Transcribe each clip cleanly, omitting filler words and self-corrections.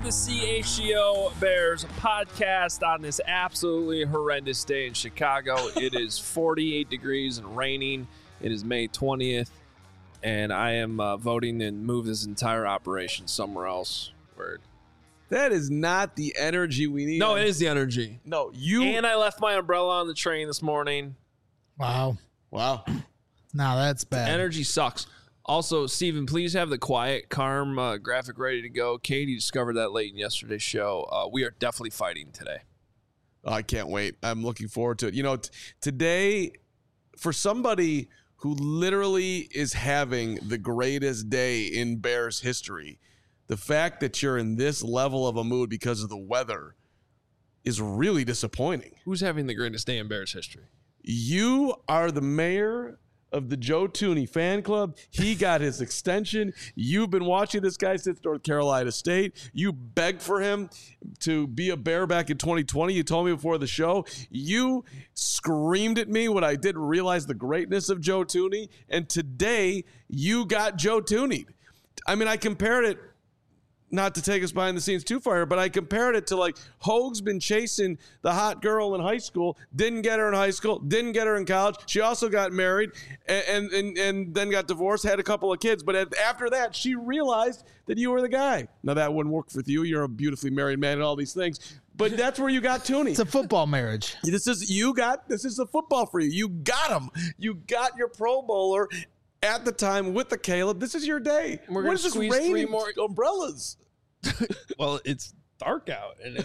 the CHGO Bears podcast on this absolutely horrendous day in Chicago. It is 48 degrees and raining. It is May 20th, and I am voting to move this entire operation somewhere else. Word. That is not the energy we need. No, it is the energy. No, you. And I left my umbrella on the train this morning. Wow. Now that's bad. Energy sucks. Also, Steven, please have the quiet, calm graphic ready to go. Katie discovered that late in yesterday's show. We are definitely fighting today. Oh, I can't wait. I'm looking forward to it. You know, today, for somebody who literally is having the greatest day in Bears history, the fact that you're in this level of a mood because of the weather is really disappointing. Who's having the greatest day in Bears history? You are the mayor of the Joe Thuney fan club. He got his extension. You've been watching this guy since North Carolina State. You begged for him to be a Bear back in 2020. You told me before the show. You screamed at me when I didn't realize the greatness of Joe Thuney. And today, you got Joe Thuney'd. I mean, I compared it, not to take us behind the scenes too far, but I compared it to like Hoag's been chasing the hot girl in high school, didn't get her in high school, didn't get her in college. She also got married and then got divorced, had a couple of kids. But after that, she realized that you were the guy. Now, that wouldn't work with you. You're a beautifully married man and all these things. But that's where you got Thuney. It's a football marriage. This is the football for you. You got him. You got your Pro Bowler at the time with the Caleb. This is your day. We're going to squeeze 3 more umbrellas. Well, it's dark out, and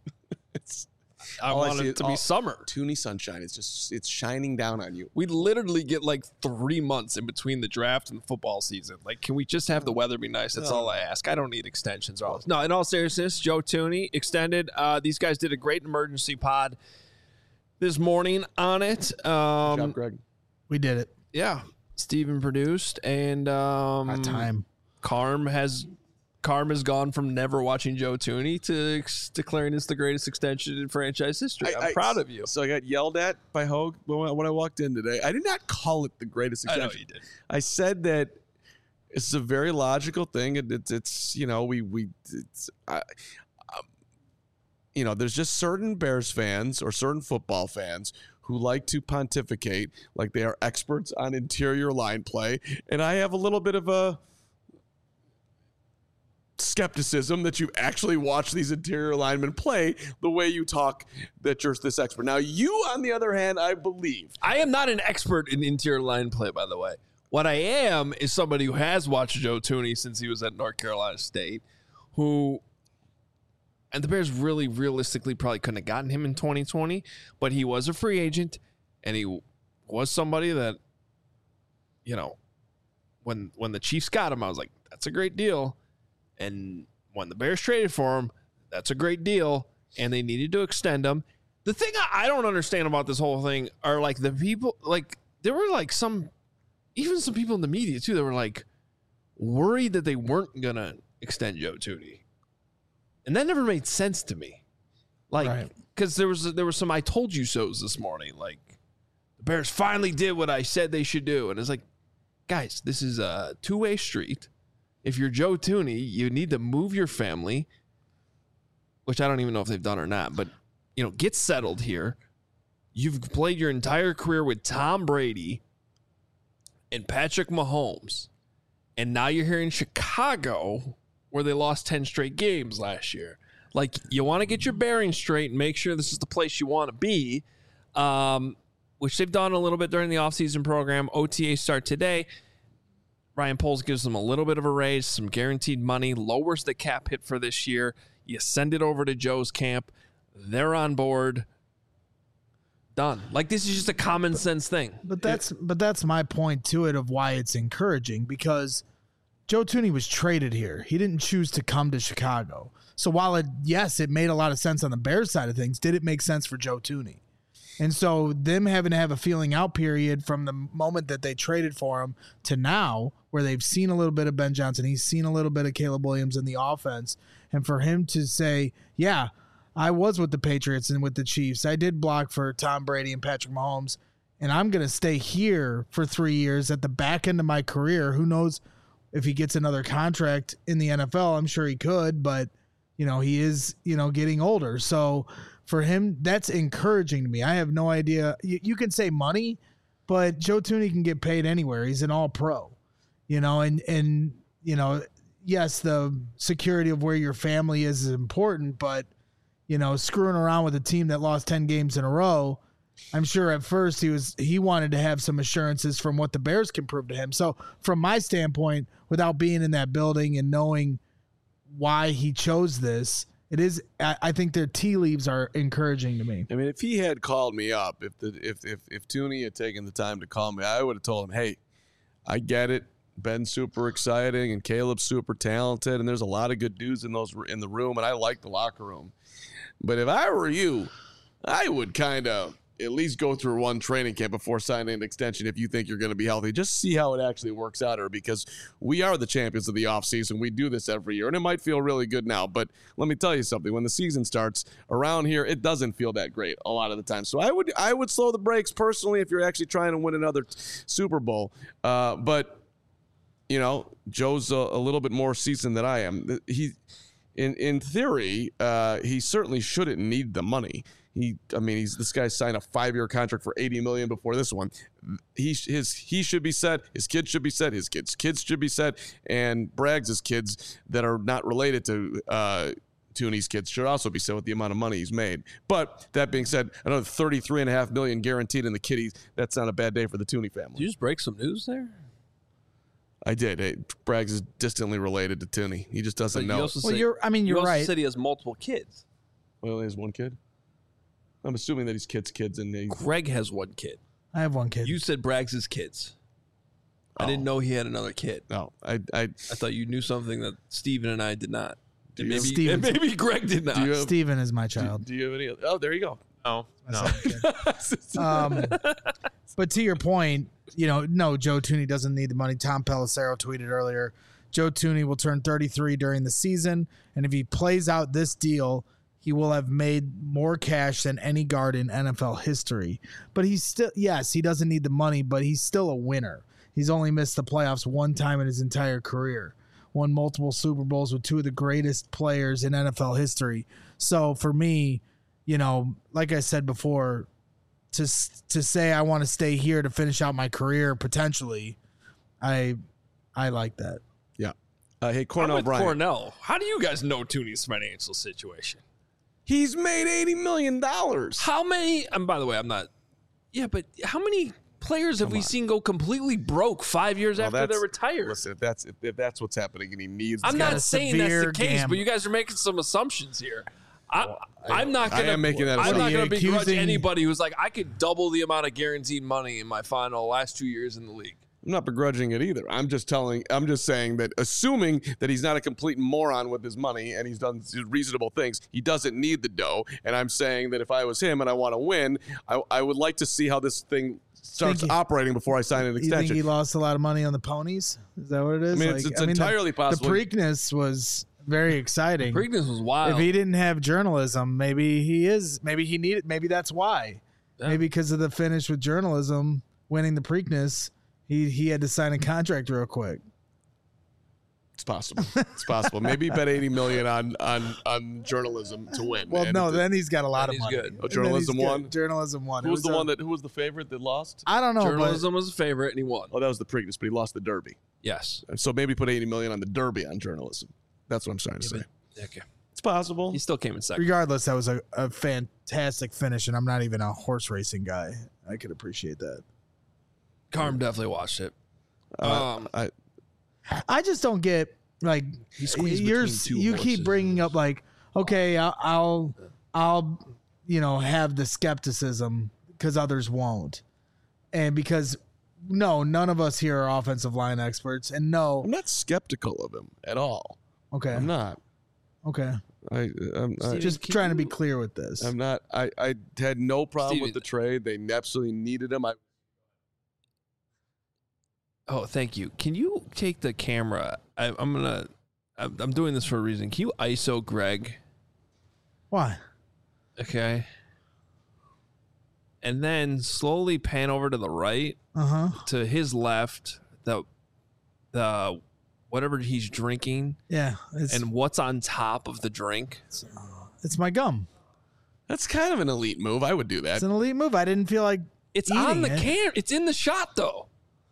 I want it to be summer. Thuney sunshine. It's shining down on you. We literally get like 3 months in between the draft and the football season. Like, can we just have the weather be nice? That's all I ask. I don't need extensions or all this. No, in all seriousness, Joe Thuney extended. These guys did a great emergency pod this morning on it. Good job, Greg. We did it. Yeah. Steven produced, and About time. Carm has gone from never watching Joe Thuney to declaring it's the greatest extension in franchise history. I'm proud of you. So I got yelled at by Hoag when I walked in today. I did not call it the greatest extension. I know you did. I said that it's a very logical thing. It's you know, there's just certain Bears fans or certain football fans who like to pontificate like they are experts on interior line play. And I have a little bit of a skepticism that you actually watch these interior linemen play the way you talk that you're this expert. Now, you, on the other hand, I believe. I am not an expert in interior line play, by the way. What I am is somebody who has watched Joe Thuney since he was at North Carolina State, and the Bears really realistically probably couldn't have gotten him in 2020, but he was a free agent, and he was somebody that, you know, when the Chiefs got him, I was like, that's a great deal. And when the Bears traded for him, that's a great deal, and they needed to extend him. The thing I don't understand about this whole thing are like the people, like there were like some people in the media too that were like worried that they weren't gonna extend Joe Thuney. And that never made sense to me. Like, because there was some I told you so's this morning. Like, the Bears finally did what I said they should do. And it's like, guys, this is a two-way street. If you're Joe Thuney, you need to move your family, which I don't even know if they've done or not. But, you know, get settled here. You've played your entire career with Tom Brady and Patrick Mahomes. And now you're here in Chicago, where they lost 10 straight games last year. Like, you want to get your bearings straight and make sure this is the place you want to be, which they've done a little bit during the offseason program. OTA start today. Ryan Poles gives them a little bit of a raise, some guaranteed money, lowers the cap hit for this year. You send it over to Joe's camp. They're on board. Done. Like, this is just a common sense thing. But that's my point to it of why it's encouraging, because Joe Thuney was traded here. He didn't choose to come to Chicago. So while it made a lot of sense on the Bears side of things, did it make sense for Joe Thuney? And so them having to have a feeling out period from the moment that they traded for him to now, where they've seen a little bit of Ben Johnson, he's seen a little bit of Caleb Williams in the offense, and for him to say, yeah, I was with the Patriots and with the Chiefs. I did block for Tom Brady and Patrick Mahomes, and I'm going to stay here for 3 years at the back end of my career. Who knows if he gets another contract in the NFL? I'm sure he could, but he is, getting older. So for him, that's encouraging to me. I have no idea. You can say money, but Joe Thuney can get paid anywhere. He's an all-pro, and yes, the security of where your family is important, but, screwing around with a team that lost 10 games in a row, I'm sure at first he wanted to have some assurances from what the Bears can prove to him. So from my standpoint, without being in that building and knowing why he chose this, I think their tea leaves are encouraging to me. I mean, if he had called me up, if Thuney had taken the time to call me, I would have told him, hey, I get it. Ben's super exciting and Caleb's super talented, and there's a lot of good dudes in the room, and I like the locker room. But if I were you, I would kind of at least go through one training camp before signing an extension if you think you're going to be healthy. Just see how it actually works out, or because we are the champions of the offseason. We do this every year, and it might feel really good now. But let me tell you something. When the season starts around here, it doesn't feel that great a lot of the time. So I would slow the brakes personally if you're actually trying to win another Super Bowl. But, Joe's a little bit more seasoned than I am. In theory, he certainly shouldn't need the money. This guy signed a 5-year contract for $80 million before this one. He should be set. His kids should be set. His kids should be set. And Braggs' kids that are not related to Thuney's kids should also be set with the amount of money he's made. But that being said, another $33.5 million guaranteed in the kitties. That's not a bad day for the Thuney family. Did you just break some news there? I did. Braggs is distantly related to Thuney. He just doesn't know. You're also right. said he has multiple kids. Well, he has one kid. I'm assuming that he's kids, and Greg has one kid. I have one kid. You said Braggs' kids. I didn't know he had another kid. No, I thought you knew something that Steven and I did not. And Steven- maybe Greg did not. Steven is my child. Do you have any? Oh, there you go. Oh, no. But to your point, no, Joe Thuney doesn't need the money. Tom Pelissero tweeted earlier, Joe Thuney will turn 33 during the season, and if he plays out this deal, he will have made more cash than any guard in NFL history. But he's still, yes, he doesn't need the money, but he's still a winner. He's only missed the playoffs one time in his entire career. Won multiple Super Bowls with two of the greatest players in NFL history. So for me, like I said before, to say I want to stay here to finish out my career potentially, I like that. Yeah. Hey, Cornell Bryant. Cornell, how do you guys know Thuney's financial situation? He's made $80 million. How many? And by the way, I'm not. Yeah, but how many players have we seen go completely broke 5 years after they're retired? Listen, if that's what's happening, and he needs. I'm not saying that's the case, gamble. but you guys are making some assumptions here. I'm not going I am making that I'm not going to begrudge accusing- anybody who's like, I could double the amount of guaranteed money in my last 2 years in the league. I'm not begrudging it either. I'm just saying that, assuming that he's not a complete moron with his money and he's done reasonable things, he doesn't need the dough. And I'm saying that if I was him and I want to win, I would like to see how this thing starts operating before I sign an extension. You think he lost a lot of money on the ponies? Is that what it is? I mean, it's entirely possible. The Preakness was very exciting. Preakness was wild. If he didn't have journalism, maybe that's why. Yeah. Maybe because of the finish with journalism, winning the Preakness, he had to sign a contract real quick. It's possible. It's possible. Maybe bet $80 million on journalism to win. Well, and no, then he's got a lot then of money. he's good. Oh, journalism won? Journalism won. Who was the favorite that lost? I don't know. Journalism was a favorite, and he won. Oh, that was the Preakness, but he lost the Derby. Yes. So maybe put $80 million on the Derby on journalism. That's what I'm trying to say. Okay. It's possible. He still came in second. Regardless, that was a fantastic finish, and I'm not even a horse racing guy. I could appreciate that. Carm definitely watched it. I just don't get, like, He squeezed between two you horses. keep bringing up, like, okay, I'll have the skepticism because others won't, and because none of us here are offensive line experts, and I'm not skeptical of him at all. Okay, I'm not. Okay, I'm just trying to be clear with this. I'm not. I had no problem Steven. with the trade. They absolutely needed him. Oh, thank you. Can you take the camera? I'm doing this for a reason. Can you ISO Greg? Why? Okay. And then slowly pan over to the right, to his left, the whatever he's drinking Yeah, and what's on top of the drink. it's my gum. That's kind of an elite move. I would do that. It's an elite move. I didn't feel like It's eating on the it. can. It's in the shot, though.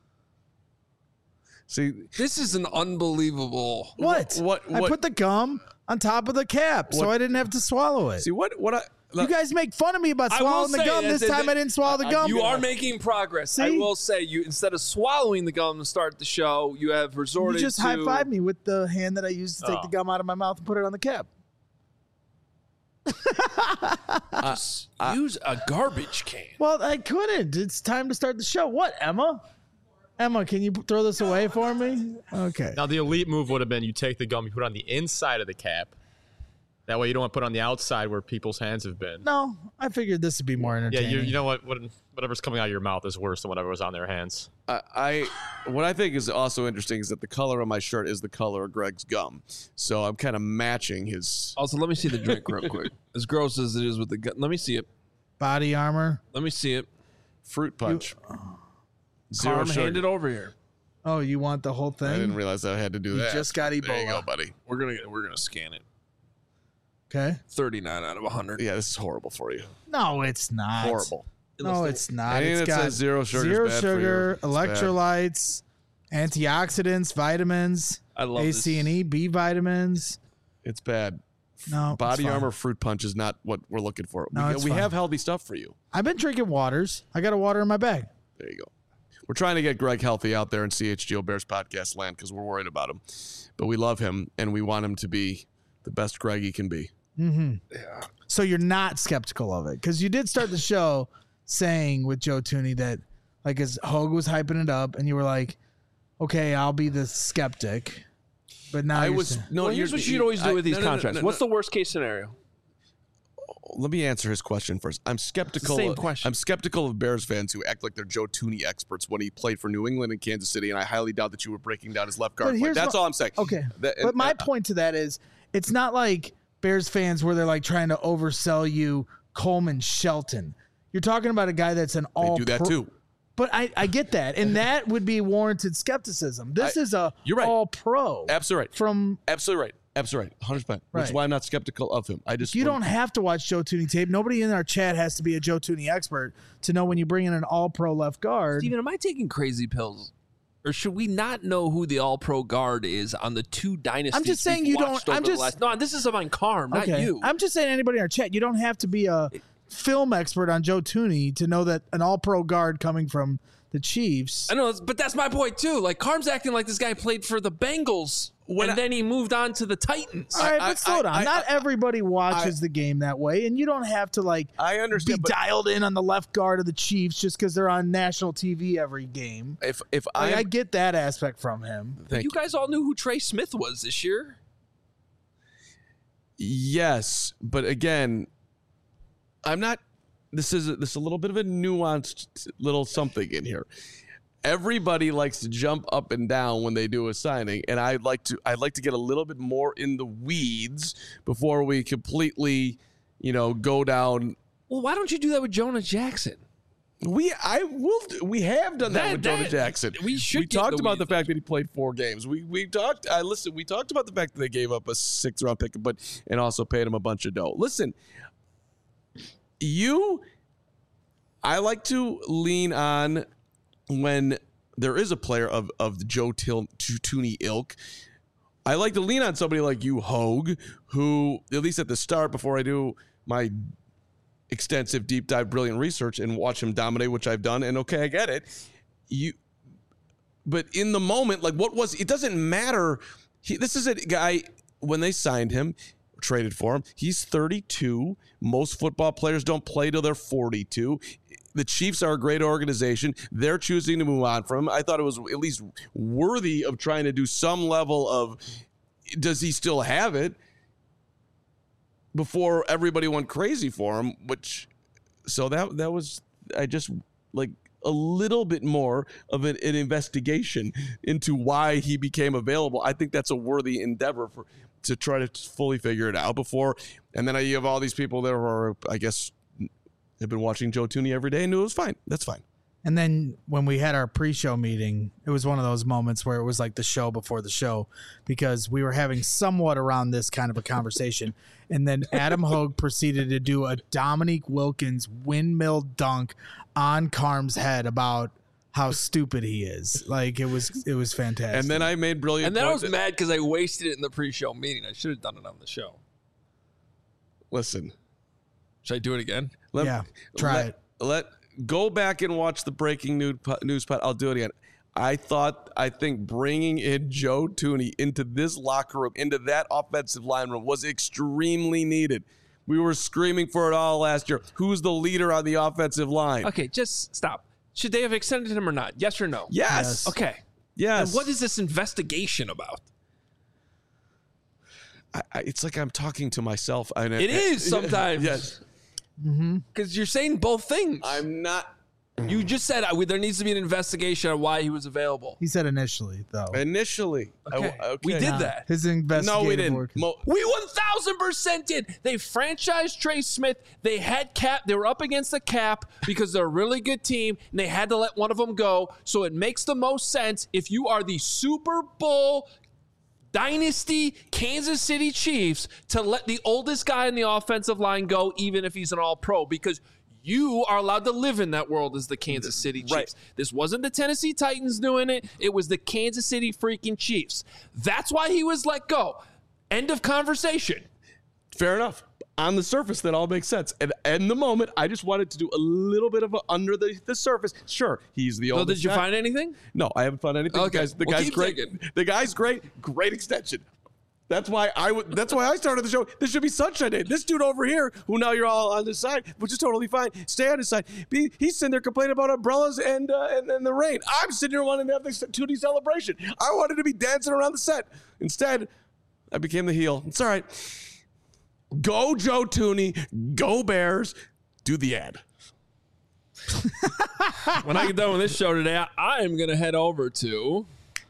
See, This is an unbelievable. What? I put the gum on top of the cap, so I didn't have to swallow it. see what I. You guys make fun of me about I will swallowing the say gum. that- This time I didn't swallow the gum. You are making progress. I See? will say, you instead of swallowing the gum to start the show, you have You resorted just to high-fived me with the hand that I used to take the gum out of my mouth and put it on the cap. use a garbage can. Well, I couldn't. It's time to start the show. What, Emma? Emma, can you throw this away for me? Okay. Now, the elite move would have been you take the gum, you put it on the inside of the cap. That way you don't want to put it on the outside where people's hands have been. No, I figured this would be more Yeah, entertaining. you know what? Whatever's coming out of your mouth is worse than whatever was on their hands. What I think is also interesting is that the color of my shirt is the color of Greg's gum, so I'm kind of matching his. Also, let me see the drink real quick. As gross as it is with the gum, let me see it. Body armor. Let me see it. Fruit punch. Zero Carm, sugar. hand it over here. Oh, you want the whole thing? I didn't realize I had to do You that. just got There you Ebola. go, buddy. We're gonna scan it. Okay. 39 out of 100. Yeah, this is horrible for you. No, it's not. Horrible. No, it's not. Anything It's that got says zero sugar is zero bad for sugar, you. It's bad. electrolytes, antioxidants, vitamins, I love A, this. C, and E, B vitamins. It's bad. No, Body it's fine. armor fruit punch is not what we're looking for. No, we it's we fine. have healthy stuff for you. I've been drinking waters. I got a water in my bag. There you go. We're trying to get Greg healthy out there in CHGO Bears podcast land because we're worried about him. But we love him, and we want him to be the best Greg he can be. So you're not skeptical of it because you did start the show saying with Joe Tooney that like as Hogue was hyping it up and you were like, okay, I'll be the skeptic. But now I you're was saying- no. Well, here's what you'd always do with these contracts. What's the worst case scenario? Let me answer his question first. I'm skeptical. Same question. I'm skeptical of Bears fans who act like they're Joe Tooney experts when he played for New England and Kansas City, and I highly doubt that you were breaking down his left guard. But play. here's That's what- all I'm saying. Okay. That- But my and- point to that is it's not like Bears fans where they're like trying to oversell you Coleman Shelton. You're talking about a guy that's an they all do that pro- too. But I get that. And that would be warranted skepticism. This is a you're right. all pro. Absolutely right. From Absolutely right. Absolutely right. 100%. Which is Right. why I'm not skeptical of him. I just you don't have to watch Joe Tooney tape. Nobody in our chat has to be a Joe Tooney expert to know when you bring in an all pro left guard. Steven, am I taking crazy pills? Or should we not know who the all-pro guard is on the two dynasties? I'm just saying we've you don't- watched over I'm the just- last- no, this is about Carm, not you. I'm just saying anybody in our chat, you don't have to be a film expert on Joe Tooney to know that an all pro guard coming from the Chiefs. I know, but that's my point too. Like Carm's acting like this guy played for the Bengals, and then he moved on to the Titans. All right, but slow down. Not everybody watches the game that way, and you don't have to like I understand, be but dialed in on the left guard of the Chiefs just because they're on national TV every game. if Like, I I get that aspect from him. thank You guys all knew who Trey Smith was this year. yes, but again, I'm not. This is a little bit of a nuanced little something in here. Everybody likes to jump up and down when they do a signing, and I'd like to get a little bit more in the weeds before we completely, go down. Well, why don't you do that with Jonah Jackson? We have done that with Jonah Jackson. we should We get talked the about the weeds. fact that he played 4 games. We talked about the fact that they gave up a 6th round pick, and also paid him a bunch of dough. Listen, I like to lean on when there is a player of the Joe Tooney ilk. I like to lean on somebody like you, Hogue, who, at least at the start, before I do my extensive deep dive brilliant research and watch him dominate, which I've done, and okay, I get it. But in the moment, like it doesn't matter. This is a guy, when they signed him, traded for him, he's 32. Most football players don't play till they're 42. The Chiefs are a great organization. They're choosing to move on from him. I thought it was at least worthy of trying to do some level of, does he still have it, before everybody went crazy for him, so that was, I just like a little bit more of an investigation into why he became available. I think that's a worthy endeavor to try to fully figure it out before. And then you have all these people there who are, I guess, have been watching Joe Tooney every day and knew it was fine. That's fine. And then when we had our pre-show meeting, it was one of those moments where it was like the show before the show, because we were having somewhat around this kind of a conversation. And then Adam Hogue proceeded to do a Dominique Wilkins windmill dunk on Carm's head about how stupid he is. Like, it was fantastic. And then I made brilliant. And then I was points. mad because I wasted it in the pre-show meeting. I should have done it on the show. Listen, Should I do it again? Yeah, try it. Go back and watch the breaking news pod. I'll do it again. I think bringing in Joe Thuney into this locker room, into that offensive line room, was extremely needed. We were screaming for it all last year. Who's the leader on the offensive line? Okay, just stop. Should they have extended him or not? Yes or no? Yes. Okay. Yes. And what is this investigation about? It's like I'm talking to myself. It is sometimes. Yes. Because you're saying both things. I'm not. You just said there needs to be an investigation on why he was available. He said initially, though. Initially. Okay. We did that. His investigative No, we didn't. work. We 1,000% did. They franchised Trey Smith. They had cap. They were up against the cap because they're a really good team, and they had to let one of them go. So it makes the most sense if you are the Super Bowl dynasty Kansas City Chiefs to let the oldest guy in the offensive line go, even if he's an all-pro, because you are allowed to live in that world as the Kansas City Chiefs. Right. This wasn't the Tennessee Titans doing it. It was the Kansas City freaking Chiefs. That's why he was let go. End of conversation. Fair enough. On the surface, that all makes sense. And in the moment, I just wanted to do a little bit of a under the surface. Sure, he's the So oldest. did you find anything? No, I haven't found anything. Okay. The Well, guy's keep great. digging. The guy's great. Great extension. That's why I started the show. This should be Sunshine Day. This dude over here, who now you're all on his side, which is totally fine. Stay on his side. He's sitting there complaining about umbrellas and the rain. I'm sitting here wanting to have the Tootie celebration. I wanted to be dancing around the set. Instead, I became the heel. It's all right. Go Joe Thuney. Go Bears. Do the ad. When I get done with this show today, I am going to head over to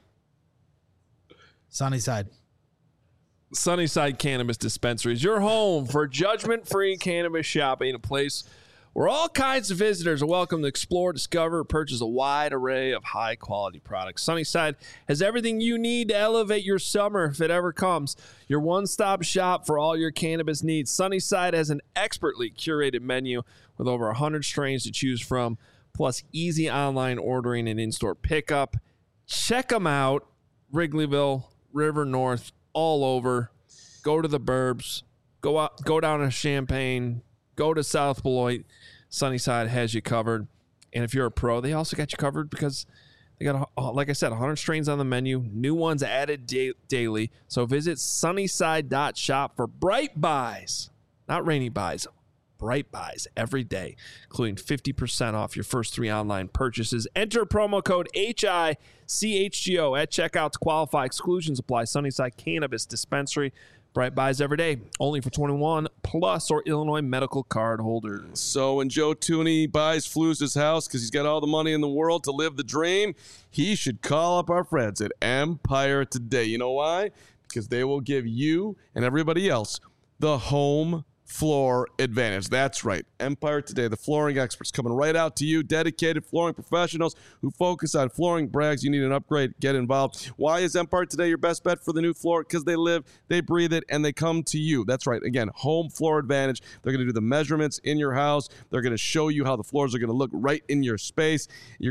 Sunnyside. Sunnyside Cannabis Dispensaries, your home for judgment-free cannabis shopping, a place where all kinds of visitors are welcome to explore, discover, purchase a wide array of high-quality products. Sunnyside has everything you need to elevate your summer if it ever comes. Your one-stop shop for all your cannabis needs. Sunnyside has an expertly curated menu with over 100 strains to choose from, plus easy online ordering and in-store pickup. Check them out. Wrigleyville, River North, all over. Go to the burbs. Go down to Champaign. Go to South Beloit. Sunnyside has you covered. And if you're a pro, they also got you covered because they got, like I said, 100 strains on the menu. New ones added daily. So visit sunnyside.shop for bright buys. Not rainy buys. Bright buys every day, including 50% off your first 3 online purchases. Enter promo code HICHGO at checkout to qualify. Exclusions apply. Sunnyside Cannabis Dispensary. Bright buys every day. Only for 21 plus or Illinois medical card holders. So when Joe Thuney buys Flus' house because he's got all the money in the world to live the dream, he should call up our friends at Empire Today. You know why? Because they will give you and everybody else the home floor advantage. That's right. Empire Today, the flooring experts coming right out to you. Dedicated flooring professionals who focus on flooring. Brags, you need an upgrade. Get involved. Why is Empire Today your best bet for the new floor? Because they live, they breathe it, and they come to you. That's right. Again, home floor advantage. They're going to do the measurements in your house. They're going to show you how the floors are going to look right in your space.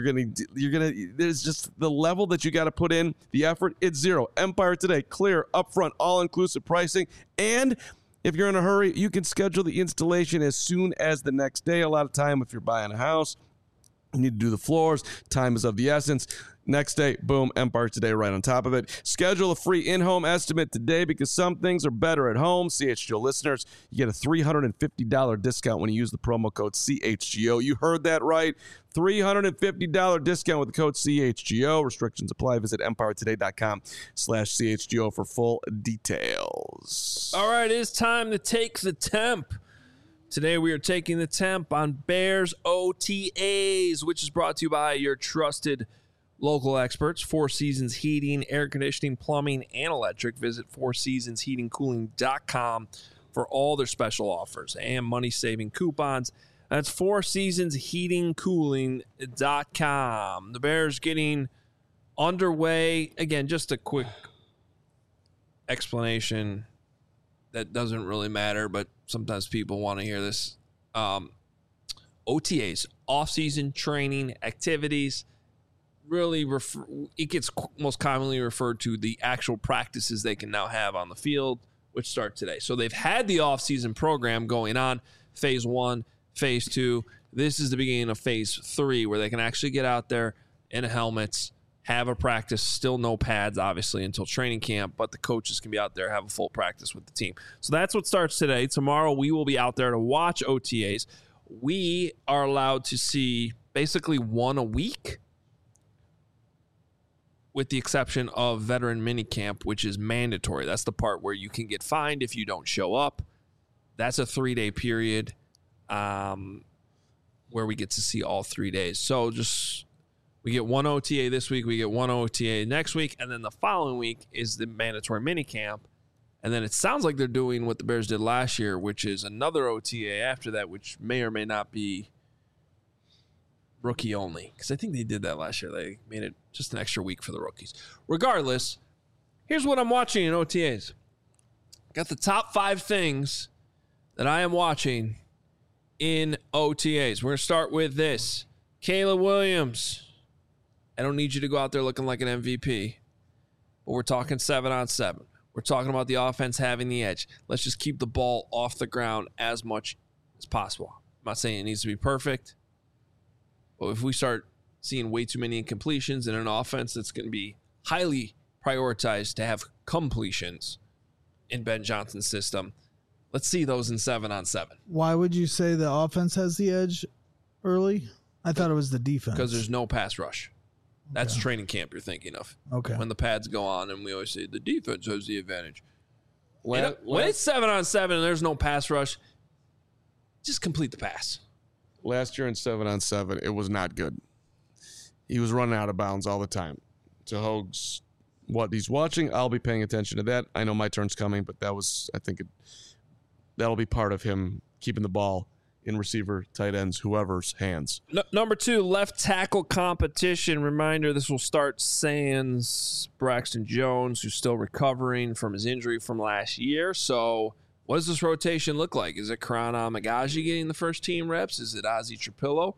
There's just the level that you got to put in, the effort. It's zero. Empire Today, clear, upfront, all-inclusive pricing, and if you're in a hurry, you can schedule the installation as soon as the next day. A lot of time, if you're buying a house, you need to do the floors. Time is of the essence. Next day, boom, Empire Today right on top of it. Schedule a free in-home estimate today because some things are better at home. CHGO listeners, you get a $350 discount when you use the promo code CHGO. You heard that right. $350 discount with the code CHGO. Restrictions apply. Visit empiretoday.com/CHGO for full details. All right, it's time to take the temp. Today we are taking the temp on Bears OTAs, which is brought to you by your trusted local experts, Four Seasons Heating, Air Conditioning, Plumbing, and Electric. Visit fourseasonsheatingcooling.com for all their special offers and money-saving coupons. That's fourseasonsheatingcooling.com. The Bears getting underway. Again, just a quick explanation that doesn't really matter, but sometimes people want to hear this. OTAs, off-season training activities, really it gets most commonly referred to the actual practices they can now have on the field, which start today. So they've had the off-season program going on, phase 1, phase 2. This is the beginning of phase 3, where they can actually get out there in helmets, have a practice, still no pads, obviously, until training camp, but the coaches can be out there, have a full practice with the team. So that's what starts today. Tomorrow, we will be out there to watch OTAs. We are allowed to see basically one a week, with the exception of veteran minicamp, which is mandatory. That's the part where you can get fined if you don't show up. That's a 3-day period where we get to see all 3 days. So we get one OTA this week, we get one OTA next week, and then the following week is the mandatory minicamp. And then it sounds like they're doing what the Bears did last year, which is another OTA after that, which may or may not be rookie only. Because I think they did that last year. They made it just an extra week for the rookies. Regardless, here's what I'm watching in OTAs. Got the top 5 things that I am watching in OTAs. We're going to start with this. Caleb Williams. I don't need you to go out there looking like an MVP, but we're talking 7-on-7. We're talking about the offense having the edge. Let's just keep the ball off the ground as much as possible. I'm not saying it needs to be perfect, but if we start seeing way too many incompletions in an offense that's going to be highly prioritized to have completions in Ben Johnson's system, let's see those in 7-on-7. Why would you say the offense has the edge early? I thought it was the defense. Because there's no pass rush. That's training camp you're thinking of. Okay. When the pads go on, and we always say the defense has the advantage. When it's 7-on-7 and there's no pass rush, just complete the pass. Last year in 7-on-7, it was not good. He was running out of bounds all the time. To Hogue's what he's watching, I'll be paying attention to that. I know my turn's coming, but that'll be part of him keeping the ball in receiver, tight ends, whoever's hands. Number 2, left tackle competition. Reminder, this will start sans Braxton Jones, who's still recovering from his injury from last year. So what does this rotation look like? Is it Karan Amagaji getting the first team reps? Is it Ozzie Trapillo?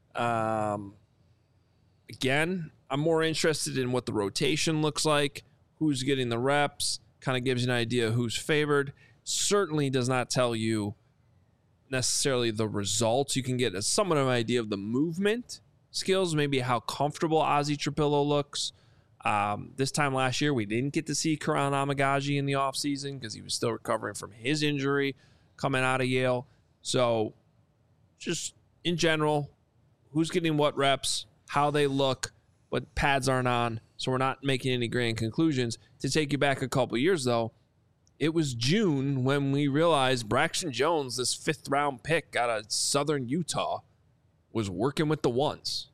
Again, I'm more interested in what the rotation looks like, who's getting the reps, kind of gives you an idea who's favored. Certainly does not tell you necessarily the results. You can get somewhat of an idea of the movement skills, maybe how comfortable Ozzie Trapillo looks. This time last year, we didn't get to see Karan Amagaji in the offseason because he was still recovering from his injury coming out of Yale. So just in general, who's getting what reps, how they look, what pads aren't on. So we're not making any grand conclusions. To take you back a couple years, though, it was June when we realized Braxton Jones, this 5th-round pick out of Southern Utah, was working with the ones.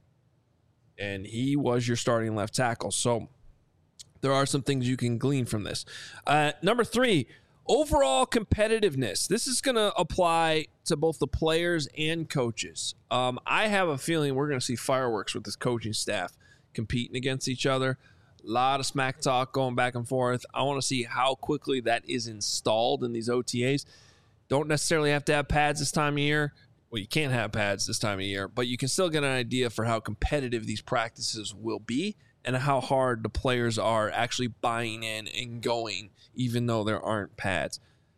And he was your starting left tackle. So there are some things you can glean from this. Number 3, overall competitiveness. This is going to apply to both the players and coaches. I have a feeling we're going to see fireworks with this coaching staff competing against each other. A lot of smack talk going back and forth. I want to see how quickly that is installed in these OTAs. Don't necessarily have to have pads this time of year. Well, you can't have pads this time of year, but you can still get an idea for how competitive these practices will be and how hard the players are actually buying in and going, even though there aren't pads.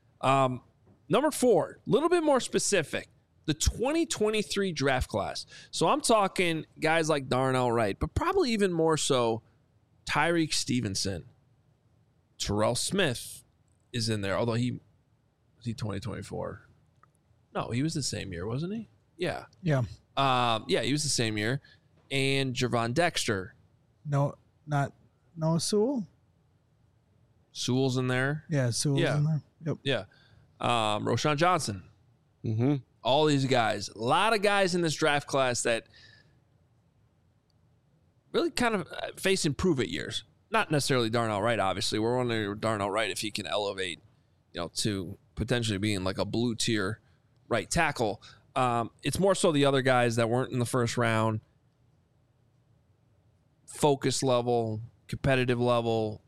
Number 4, a little bit more specific, the 2023 draft class. So I'm talking guys like Darnell Wright, but probably even more so Tyreek Stevenson. Terrell Smith is in there, although was he 2024? No, he was the same year, wasn't he? Yeah. Yeah. He was the same year. And Javon Dexter. No, not Noah Sewell. Sewell's in there. Yeah, Sewell's in there. Yep. Yeah. Roschon Johnson. Mm-hmm. All these guys. A lot of guys in this draft class that really kind of face improve-it years. Not necessarily Darnell Wright, obviously. We're wondering Darnell Wright if he can elevate, to potentially being like a blue tier right tackle. It's more so the other guys that weren't in the first round. Focus level, competitive level.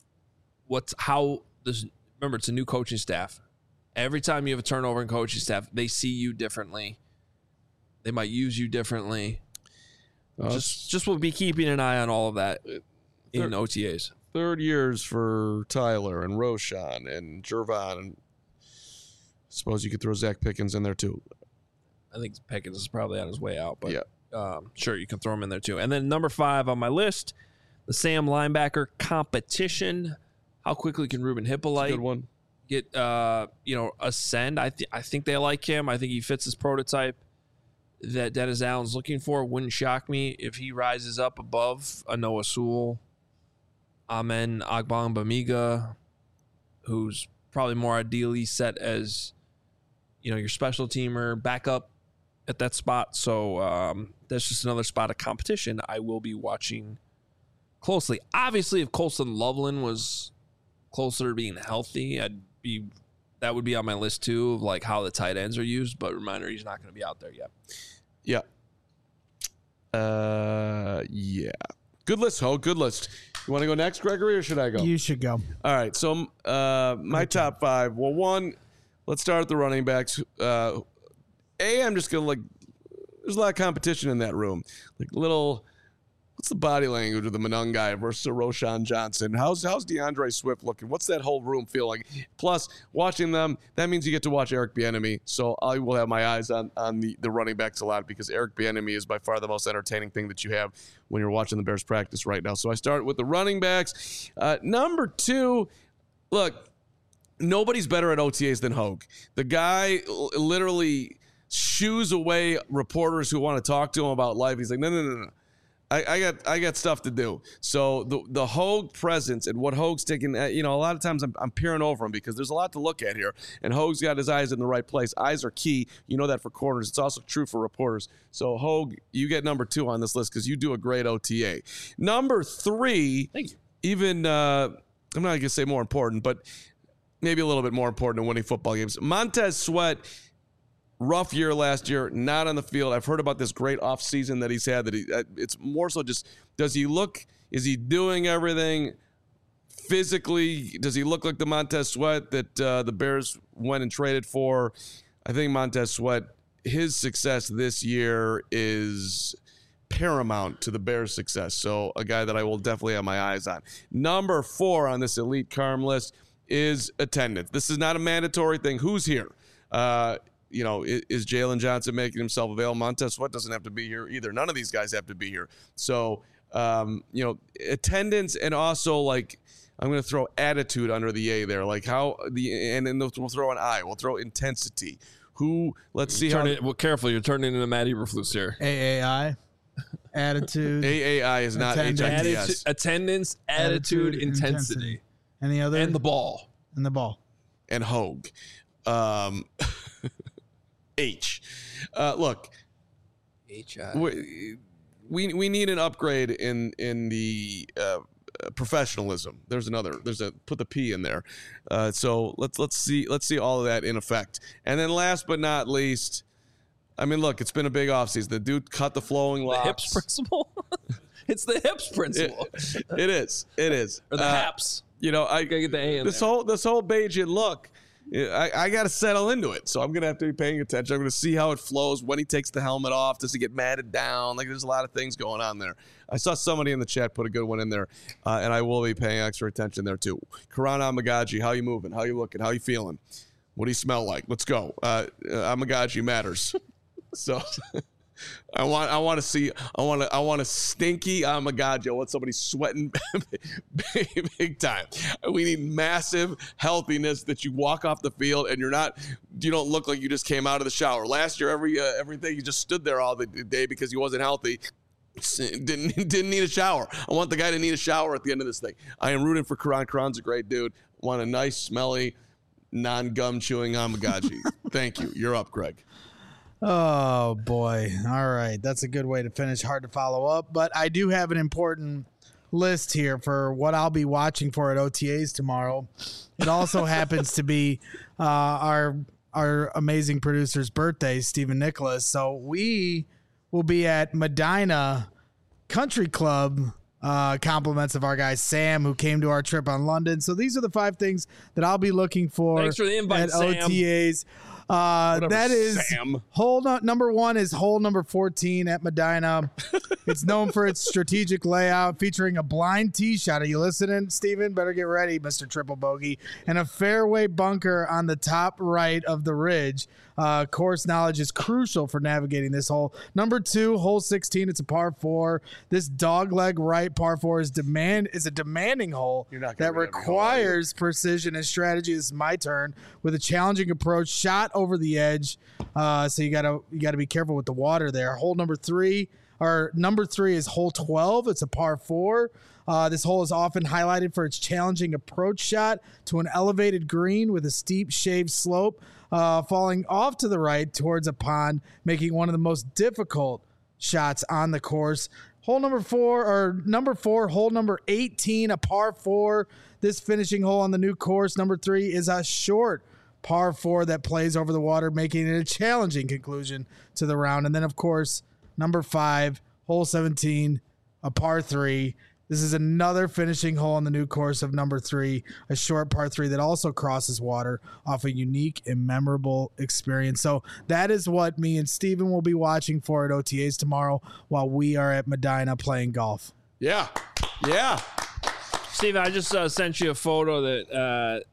Remember, it's a new coaching staff. Every time you have a turnover in coaching staff, they see you differently. They might use you differently. Just we'll be keeping an eye on all of that in OTAs. Third years for Tyler and Roshan and Jervon, and suppose you could throw Zach Pickens in there too. I think Pickens is probably on his way out, but yeah. Sure, you can throw him in there too. And then number 5 on my list, the Sam linebacker competition. How quickly can Ruben Hippolyte Good one. get ascend? I think they like him. I think he fits his prototype that Dennis Allen's looking for. Wouldn't shock me if he rises up above a Noah Sewell, Amen Agbangbamiga, who's probably more ideally set as your special teamer backup at that spot. So that's just another spot of competition I will be watching closely. Obviously, if Colston Loveland was closer to being healthy, that would be on my list too, of like how the tight ends are used. But reminder, he's not going to be out there yet. Yeah. Yeah. Good list, Ho. Good list. You want to go next, Gregory, or should I go? You should go. All right. So my top 5. Well, one, let's start with the running backs. I'm just going to there's a lot of competition in that room. What's the body language of the Manung guy versus Roshan Johnson? How's DeAndre Swift looking? What's that whole room feel like? Plus, watching them, that means you get to watch Eric Bieniemy. So I will have my eyes on the running backs a lot, because Eric Bieniemy is by far the most entertaining thing that you have when you're watching the Bears practice right now. So I start with the running backs. Number 2, look, nobody's better at OTAs than Hogue. The guy literally shoos away reporters who want to talk to him about life. He's like, no. I got stuff to do. So the Hogue presence and what Hogue's taking, a lot of times I'm peering over him because there's a lot to look at here. And Hogue's got his eyes in the right place. Eyes are key. You know that for corners. It's also true for reporters. So Hogue, you get number 2 on this list because you do a great OTA. Number 3, Thank you. Even, I'm not going to say more important, but maybe a little bit more important than winning football games. Montez Sweat. Rough year last year, not on the field. I've heard about this great offseason that he's had. It's more so just, is he doing everything physically? Does he look like the Montez Sweat that the Bears went and traded for? I think Montez Sweat, his success this year is paramount to the Bears' success. So a guy that I will definitely have my eyes on. Number 4 on this elite Carm list is attendance. This is not a mandatory thing. Who's here? Is Jalen Johnson making himself available? Montez Sweat doesn't have to be here either. None of these guys have to be here. So, attendance, and also I'm going to throw attitude under the A there. And then we'll throw an I. We'll throw intensity. Let's see how. Careful, you're turning into Matt Eberflus here. AAI. Attitude. AAI is not HITS. Attendance, attitude, intensity. Any other? And the ball. And Hogue. H. Look, we need an upgrade in the professionalism. There's put the P in there. So let's see all of that in effect. And then last but not least, I mean, look, it's been a big offseason. The dude cut the flowing locks. The hips principle. It's the hips principle. It is. Or the haps. I gotta get the A in this whole Bajan look. I got to settle into it, so I'm going to have to be paying attention. I'm going to see how it flows, when he takes the helmet off. Does he get matted down? There's a lot of things going on there. I saw somebody in the chat put a good one in there, and I will be paying extra attention there too. Karan Amagaji, how you moving? How you looking? How you feeling? What do you smell like? Let's go. Amagaji matters. So I want to see a stinky Amagaji. I want somebody sweating big time. We need massive healthiness, that you walk off the field and you don't look like you just came out of the shower. Last year, everything, you just stood there all the day because he wasn't healthy. Didn't need a shower. I want the guy to need a shower at the end of this thing. I am rooting for Karan. Karan's a great dude. Want a nice, smelly, non-gum chewing Amagaji. Thank you. You're up, Greg. Oh, boy. All right. That's a good way to finish. Hard to follow up. But I do have an important list here for what I'll be watching for at OTAs tomorrow. It also happens to be our our amazing producer's birthday, Stephen Nicholas. So we will be at Medina Country Club. Compliments of our guy Sam, who came to our trip on London. So these are the 5 things that I'll be looking for. Thanks for the invite, at Sam. OTAs. That is Sam. number 1 is hole number 14 at Medina. It's known for its strategic layout, featuring a blind tee shot. Are you listening, Steven? Better get ready, Mr. Triple Bogey. And a fairway bunker on the top right of the ridge. Course knowledge is crucial for navigating this hole. Number 2, hole 16. It's a par 4. This dogleg right par 4 is a demanding hole You're not that gonna win every hole, are you? requires precision and strategy. This is my turn with a challenging approach, shot over the edge. So you gotta be careful with the water there. Hole number 3 is hole 12. It's a par 4. This hole is often highlighted for its challenging approach shot to an elevated green with a steep shaved slope, falling off to the right towards a pond, making one of the most difficult shots on the course. Hole number 4, hole number 18, a par 4. This finishing hole on the new course, number 3, is a short par 4 that plays over the water, making it a challenging conclusion to the round. And then, of course, number 5, hole 17, a par 3. This is another finishing hole on the new course of number 3, a short par 3 that also crosses water off a unique and memorable experience. So that is what me and Steven will be watching for at OTAs tomorrow while we are at Medina playing golf. Yeah. Steve, I just sent you a photo that,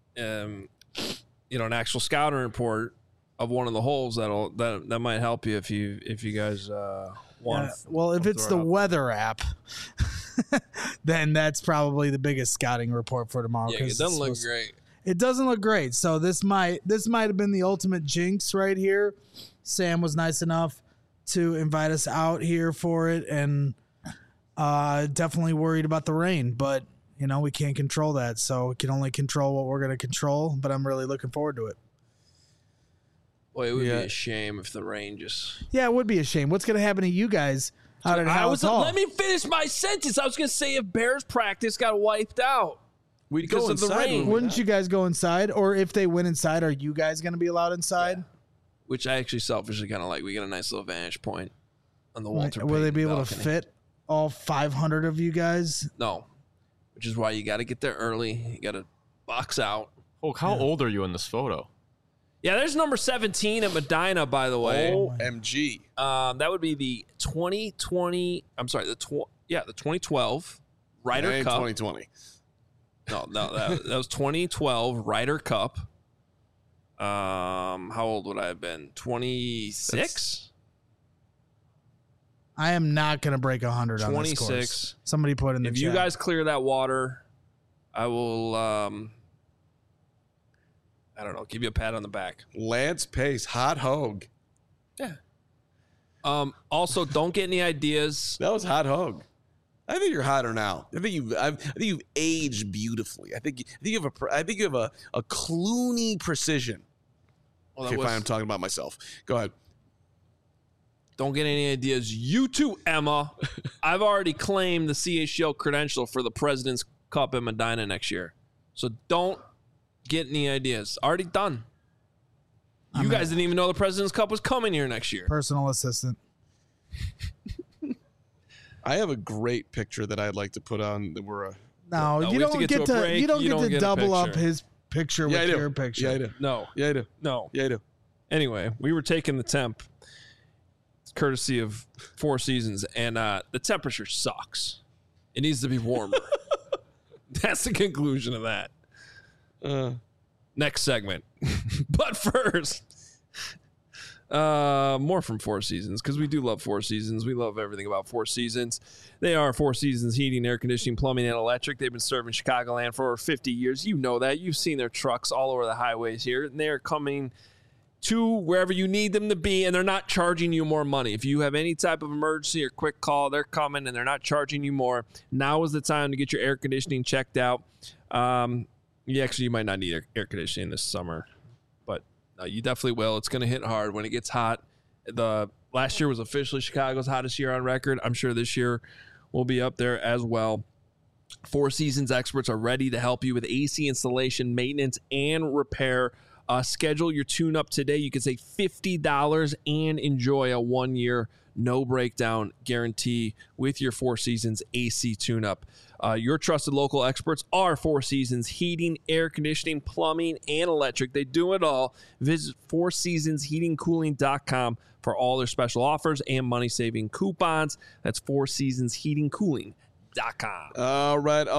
an actual scouting report of one of the holes that might help you if you guys want. Well, if it's the weather app, then that's probably the biggest scouting report for tomorrow. Yeah, it doesn't look great. It doesn't look great. So this might have been the ultimate jinx right here. Sam was nice enough to invite us out here for it, and definitely worried about the rain, but we can't control that. So we can only control what we're going to control, but I'm really looking forward to it. Boy, it would be a shame if the rain just... Yeah, it would be a shame. What's going to happen to you guys out at Hallis Hall? Let me finish my sentence. I was going to say if Bears practice got wiped out We'd because go of the inside, rain. Wouldn't you guys go inside? Or if they went inside, are you guys going to be allowed inside? Which I actually selfishly kind of like. We get a nice little vantage point on the Walter Will they Payton be able balcony. to fit all 500 of you guys? No. Which is why you got to get there early. You got to box out. Oh, how old are you in this photo? Yeah, there's number 17 at Medina, by the way. OMG. That would be the 2020. I'm sorry, the 2012 Ryder Ain't Cup. 2020. No, that was 2012 Ryder Cup. How old would I have been? 26. I am not going to break 100 on this 26. course. Somebody put in the If chat. you guys clear that water, I will. I don't know. Give you a pat on the back. Lance Pace, hot hog. Yeah. Also, don't get any ideas. That was hot hog. I think you're hotter now. I think you've aged beautifully. I think you have a Clooney precision. Well, Okay, fine, I'm talking about myself. Go ahead. Don't get any ideas. You too, Emma. I've already claimed the CHL credential for the President's Cup in Medina next year. So don't get any ideas. Already done. You guys didn't even know the President's Cup was coming here next year. Personal assistant. I have a great picture that I'd like to put on. That we're No, No, you we have to don't get to get a to break. you don't You get don't to get a double up picture. his picture yeah, I with do. your picture. Yeah, I do. No. Yeah, I do. No. Yeah, I do. Anyway, we were taking the temp, courtesy of Four Seasons, and the temperature sucks. It needs to be warmer. That's the conclusion of that. Next segment. But first, more from Four Seasons, because we do love Four Seasons. We love everything about Four Seasons. They are Four Seasons Heating, Air Conditioning, Plumbing, and Electric. They've been serving Chicagoland for over 50 years. You know that. You've seen their trucks all over the highways here. And they're coming to wherever you need them to be, and they're not charging you more money. If you have any type of emergency or quick call, they're coming, and they're not charging you more. Now is the time to get your air conditioning checked out. You might not need air conditioning this summer, but you definitely will. It's going to hit hard when it gets hot. The last year was officially Chicago's hottest year on record. I'm sure this year will be up there as well. Four Seasons experts are ready to help you with AC installation, maintenance, and repair Schedule your tune-up today. You can save $50 and enjoy a 1-year no breakdown guarantee with your Four Seasons AC tune-up. Your trusted local experts are Four Seasons Heating, Air Conditioning, Plumbing, and Electric. They do it all. Visit fourseasonsheatingcooling.com for all their special offers and money-saving coupons. That's fourseasonsheatingcooling.com. All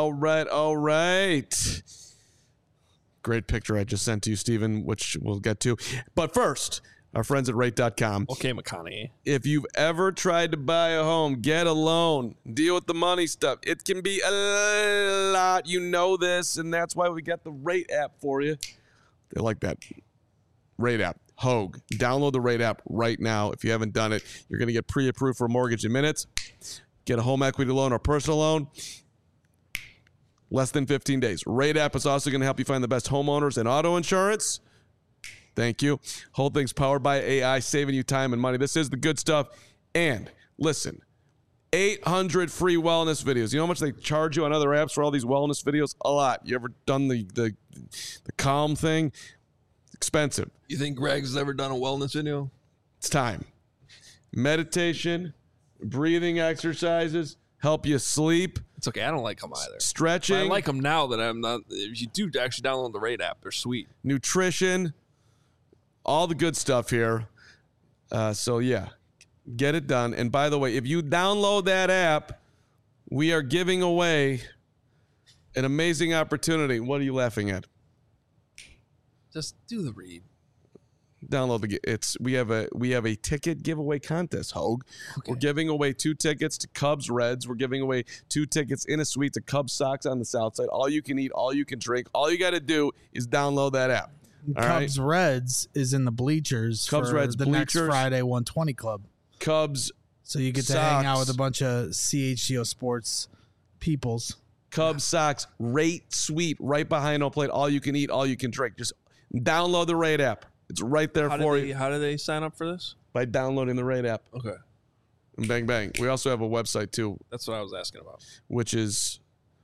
right. Great picture I just sent to you, Steven, which we'll get to. But first, our friends at rate.com. Okay, McConaughey. If you've ever tried to buy a home, get a loan, deal with the money stuff, it can be a lot. You know this, and that's why we got the Rate app for you. They like that. Rate app. Hogue. Download the Rate app right now. If you haven't done it, you're going to get pre-approved for a mortgage in minutes. Get a home equity loan or personal loan. Less than 15 days. Rate app is also going to help you find the best homeowners and auto insurance. Thank you. Whole thing's powered by AI, saving you time and money. This is the good stuff. And listen, 800 free wellness videos. You know how much they charge you on other apps for all these wellness videos? A lot. You ever done the Calm thing? It's expensive. You think Greg's ever done a wellness video? It's time. Meditation, breathing exercises, help you sleep. It's okay. I don't like them either. Stretching. But I like them now that I'm not. If you do actually download the Rate app, they're sweet. Nutrition. All the good stuff here. So, yeah, get it done. And by the way, if you download that app, we are giving away an amazing opportunity. What are you laughing at? Just do the read. Download we have a ticket giveaway contest, Hogue. Okay. We're giving away 2 tickets to Cubs Reds. We're giving away 2 tickets in a suite to Cubs Sox on the South Side. All you can eat, all you can drink. All you got to do is download that app. Cubs Reds is in the bleachers for the next Friday 120 Club. Cubs. So you get to hang out with a bunch of CHGO Sports peoples. Cubs Sox Rate Suite right behind home plate. All you can eat, all you can drink. Just download the Rate app. It's right there for you. How do they sign up for this? By downloading the Rate app. Okay. And bang, bang. We also have a website, too. That's what I was asking about. Which is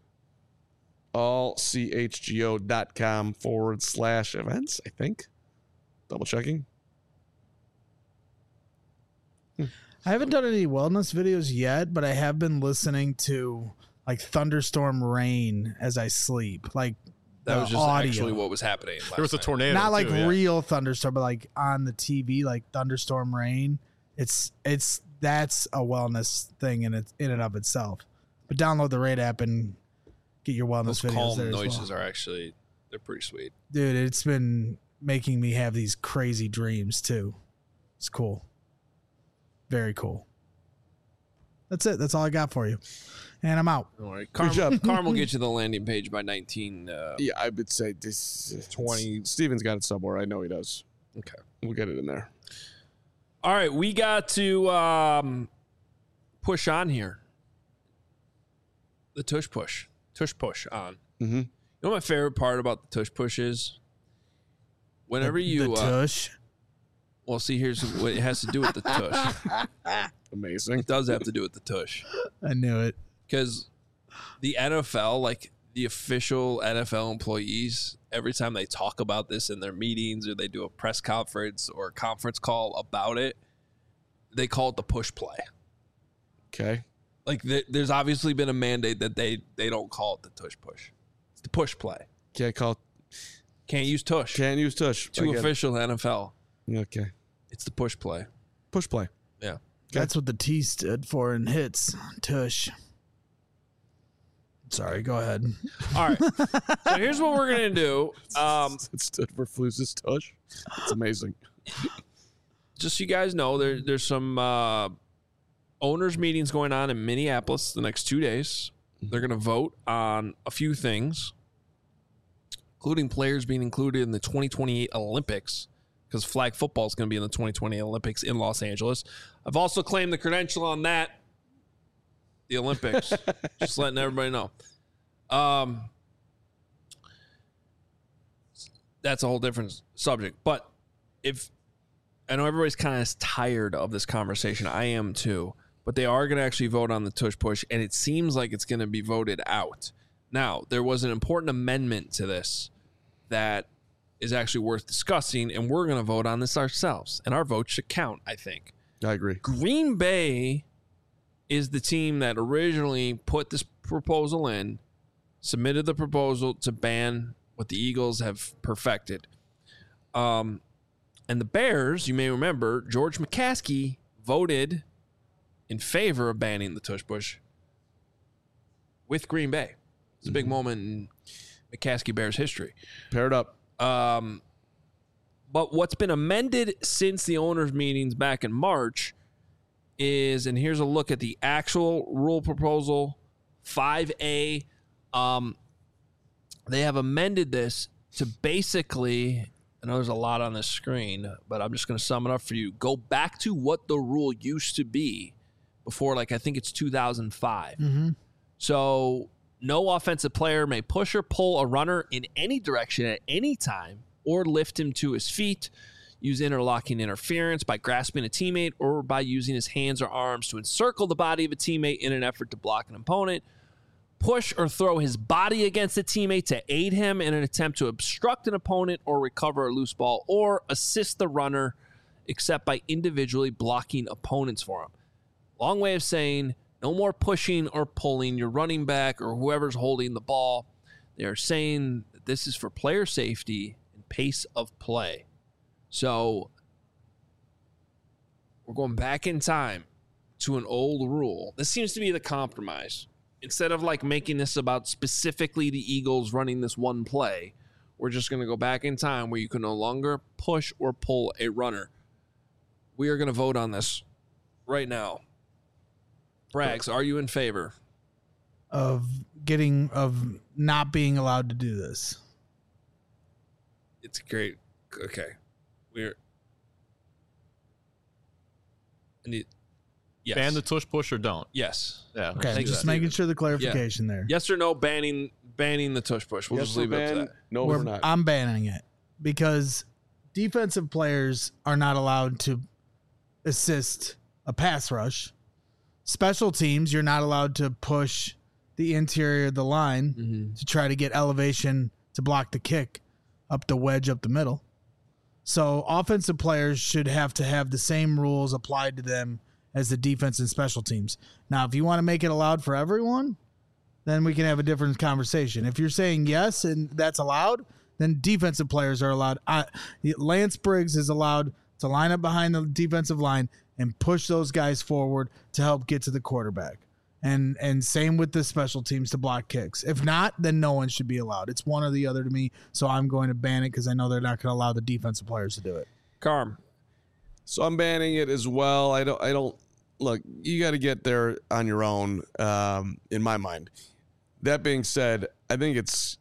allchgo.com/events, I think. Double checking. I haven't done any wellness videos yet, but I have been listening to like thunderstorm rain as I sleep. Like that was just audio. Actually what was happening. There was a tornado. Not like too, real thunderstorm, but like on the TV, like thunderstorm rain. It's that's a wellness thing in and of itself. But download the Rate app and get your wellness videos. Calm there noises are actually they're pretty sweet, dude. It's been making me have these crazy dreams too. It's cool, very cool. That's it. That's all I got for you, and I'm out. All right, Carm will get you the landing page by 19. Yeah, I would say this 20. Steven's got it somewhere. I know he does. Okay, we'll get it in there. All right, we got to push on here. The tush push on. Mm-hmm. You know what my favorite part about the tush push is? Whenever the tush. Well, see, here's what it has to do with the tush. Amazing. It does have to do with the tush. I knew it. Because the NFL, like the official NFL employees, every time they talk about this in their meetings or they do a press conference or a conference call about it, they call it the push play. Okay. Like there's obviously been a mandate that they don't call it the tush push. It's the push play. Can't use tush. Can't use tush. Too official NFL. Okay. It's the push play. Push play. Yeah. Okay. That's what the T stood for in hits. Tush. Sorry, go ahead. All right. So here's what we're going to do. It stood for Flus's tush. It's amazing. Just so you guys know, there's some owners meetings going on in Minneapolis the next 2 days. They're going to vote on a few things, including players being included in the 2028 Olympics, because flag football is going to be in the 2020 Olympics in Los Angeles. I've also claimed the credential on that. The Olympics. Just letting everybody know. That's a whole different subject. But if I know everybody's kind of tired of this conversation, I am too. But they are going to actually vote on the tush push, and it seems like it's going to be voted out. Now, there was an important amendment to this that is actually worth discussing, and we're going to vote on this ourselves, and our vote should count, I think. I agree. Green Bay is the team that originally put this proposal in, submitted the proposal to ban what the Eagles have perfected. And the Bears, you may remember, George McCaskey voted in favor of banning the tush push with Green Bay. It's a big moment in McCaskey Bears history. Paired up. But what's been amended since the owners' meetings back in March is, and here's a look at the actual rule proposal, 5A. They have amended this to basically, I know there's a lot on this screen, but I'm just going to sum it up for you. Go back to what the rule used to be before, like, I think it's 2005. So no offensive player may push or pull a runner in any direction at any time or lift him to his feet, use interlocking interference by grasping a teammate, or by using his hands or arms to encircle the body of a teammate in an effort to block an opponent, push or throw his body against a teammate to aid him in an attempt to obstruct an opponent or recover a loose ball, or assist the runner except by individually blocking opponents for him. Long way of saying no more pushing or pulling your running back or whoever's holding the ball. They are saying that this is for player safety and pace of play. So we're going back in time to an old rule. This seems to be the compromise. Instead of like making this about specifically the Eagles running this one play, we're just going to go back in time where you can no longer push or pull a runner. We are going to vote on this right now. Braggs, are you in favor of not being allowed to do this? It's great. Okay. Yes. Ban the tush push or don't? Yes. Yeah. Okay, just making sure the clarification there. Yes or no banning the tush push? We'll Yes, just leave it up to that. No, we're not. I'm banning it because defensive players are not allowed to assist a pass rush. Special teams, you're not allowed to push the interior of the line to try to get elevation to block the kick up the wedge up the middle. So offensive players should have to have the same rules applied to them as the defense and special teams. Now, if you want to make it allowed for everyone, then we can have a different conversation. If you're saying yes and that's allowed, then defensive players are allowed. Lance Briggs is allowed to line up behind the defensive line and push those guys forward to help get to the quarterback. And same with the special teams to block kicks. If not, then no one should be allowed. It's one or the other to me, so I'm going to ban it because I know they're not going to allow the defensive players to do it. Carm. So I'm banning it as well. I don't look, you got to get there on your own, in my mind. That being said, I think it's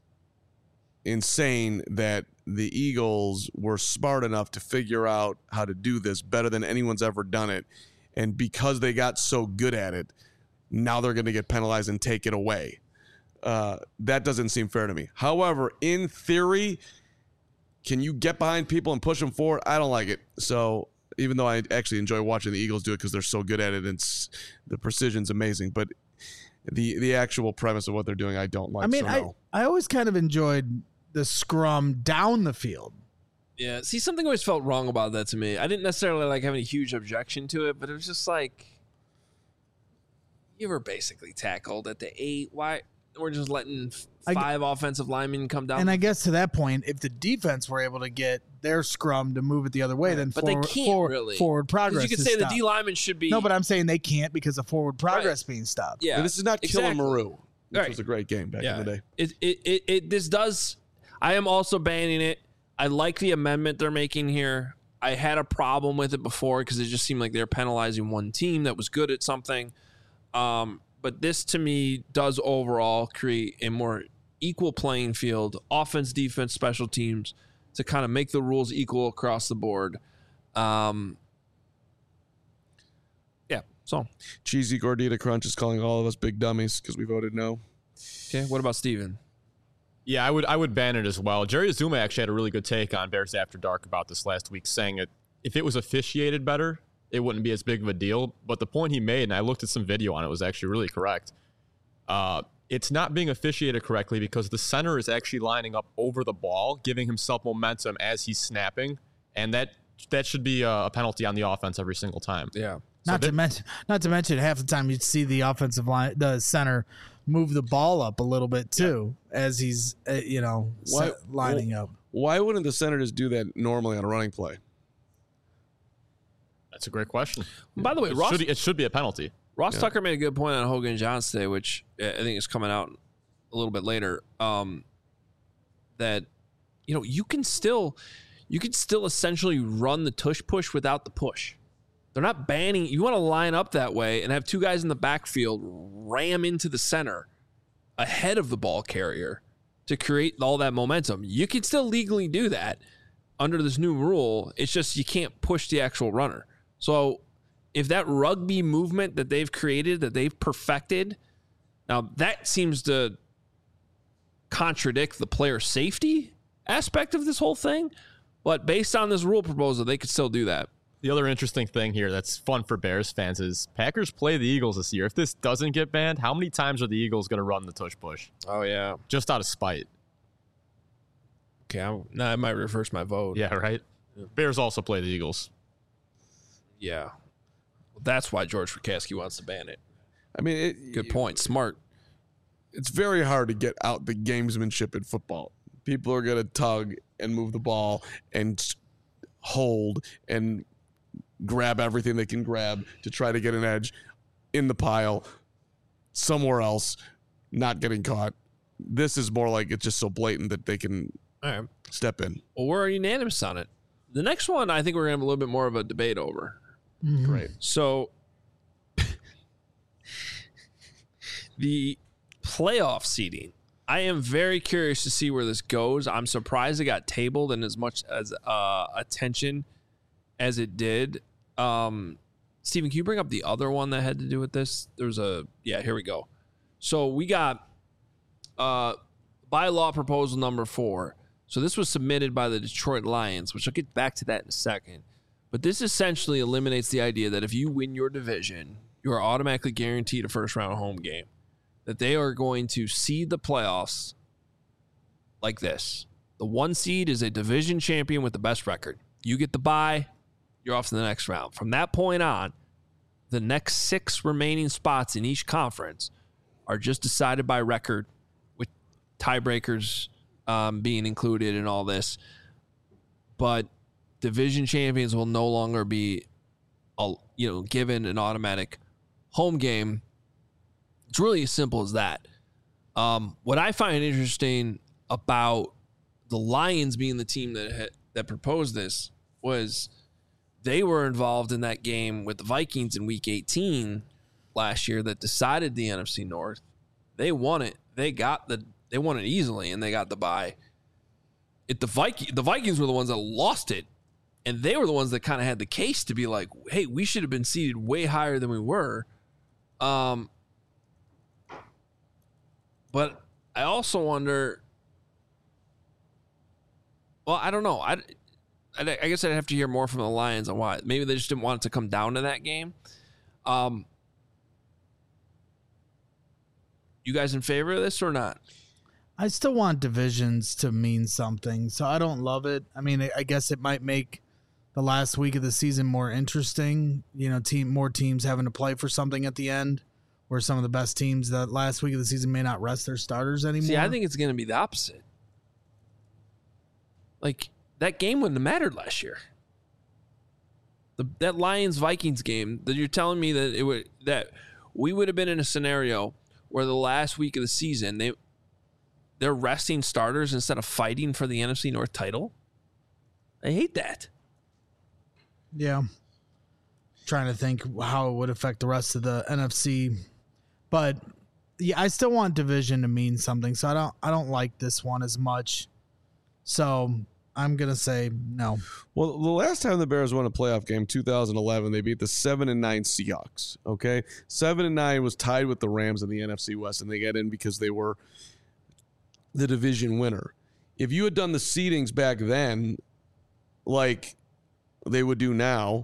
insane that the Eagles were smart enough to figure out how to do this better than anyone's ever done it. And because they got so good at it, now they're going to get penalized and take it away. That doesn't seem fair to me. However, in theory, can you get behind people and push them forward? I don't like it. So even though I actually enjoy watching the Eagles do it because they're so good at it and the precision's amazing, but the actual premise of what they're doing, I don't like. I mean, so no. I always kind of enjoyed the scrum down the field. Yeah. See, something always felt wrong about that to me. I didn't necessarily like have any huge objection to it, but it was just like, you were basically tackled at the 8. Why? We're just letting 5 offensive linemen come down. And I guess to that point, if the defense were able to get their scrum to move it the other way, then but they can't really. Forward progress. You could say the D lineman should be. No, but I'm saying they can't because of forward progress being stopped. Yeah, But this is not Killer exactly. Maru, which Right. was a great game back in the day. This does. I am also banning it. I like the amendment they're making here. I had a problem with it before because it just seemed like they're penalizing one team that was good at something. But this to me does overall create a more equal playing field, offense, defense, special teams, to kind of make the rules equal across the board. Yeah. So Cheesy Gordita Crunch is calling all of us big dummies because we voted no. okay. What about Steven? Yeah, I would ban it as well. Jerry Azuma actually had a really good take on Bears After Dark about this last week, saying if it was officiated better, it wouldn't be as big of a deal. But the point he made, and I looked at some video on it, was actually really correct. it's not being officiated correctly because the center is actually lining up over the ball, giving himself momentum as he's snapping, and that should be a penalty on the offense every single time. Yeah. Not to mention, half the time you'd see the offensive line, the center, move the ball up a little bit too as he's lining up. Why wouldn't the center just do that normally on a running play? That's a great question. By the way, it should be a penalty. Ross Tucker made a good point on Hogan Johns today, which I think is coming out a little bit later. That you can still essentially run the tush push without the push. They're not banning. You want to line up that way and have two guys in the backfield ram into the center ahead of the ball carrier to create all that momentum. You can still legally do that under this new rule. It's just you can't push the actual runner. So if that rugby movement that they've created, that they've perfected, now that seems to contradict the player safety aspect of this whole thing. But based on this rule proposal, they could still do that. The other interesting thing here that's fun for Bears fans is Packers play the Eagles this year. If this doesn't get banned, how many times are the Eagles going to run the tush push? Oh, yeah. Just out of spite. Okay, I might reverse my vote. Yeah, right? Bears also play the Eagles. Yeah. Well, that's why George Frikowski wants to ban it. I mean, good point. Smart. It's very hard to get out the gamesmanship in football. People are going to tug and move the ball and hold and grab everything they can grab to try to get an edge in the pile somewhere else, not getting caught. This is more like it's just so blatant that they can step in. Well, we're unanimous on it. The next one, I think we're going to have a little bit more of a debate over. Mm-hmm. Right. So the playoff seeding, I am very curious to see where this goes. I'm surprised it got tabled in as much as attention as it did. Steven, can you bring up the other one that had to do with this? Here we go. So we got bylaw proposal number 4. So this was submitted by the Detroit Lions, which I'll get back to that in a second. But this essentially eliminates the idea that if you win your division, you are automatically guaranteed a first-round home game. That they are going to seed the playoffs like this. The 1 seed is a division champion with the best record. You get the bye, you're off to the next round. From that point on, the next 6 remaining spots in each conference are just decided by record, with tiebreakers being included in all this. But division champions will no longer be given an automatic home game. It's really as simple as that. What I find interesting about the Lions being the team that proposed this was they were involved in that game with the Vikings in Week 18 last year that decided the NFC North. They won it. They won it easily, and they got the bye. The Vikings were the ones that lost it, and they were the ones that kind of had the case to be like, hey, we should have been seeded way higher than we were. But I also wonder, well, I don't know. I guess I'd have to hear more from the Lions on why. Maybe they just didn't want it to come down to that game. You guys in favor of this or not? I still want divisions to mean something, so I don't love it. I mean, I guess it might make the last week of the season more interesting. More teams having to play for something at the end, where some of the best teams that last week of the season may not rest their starters anymore. See, I think it's going to be the opposite. Like, that game wouldn't have mattered last year. That Lions-Vikings game, that you're telling me that we would have been in a scenario where the last week of the season, they're resting starters instead of fighting for the NFC North title? I hate that. Yeah. Trying to think how it would affect the rest of the NFC. But yeah, I still want division to mean something. So I don't like this one as much. So I'm going to say no. Well, the last time the Bears won a playoff game, 2011, they beat the 7-9 Seahawks. Okay. 7-9 was tied with the Rams in the NFC West, and they got in because they were the division winner. If you had done the seedings back then, like they would do now,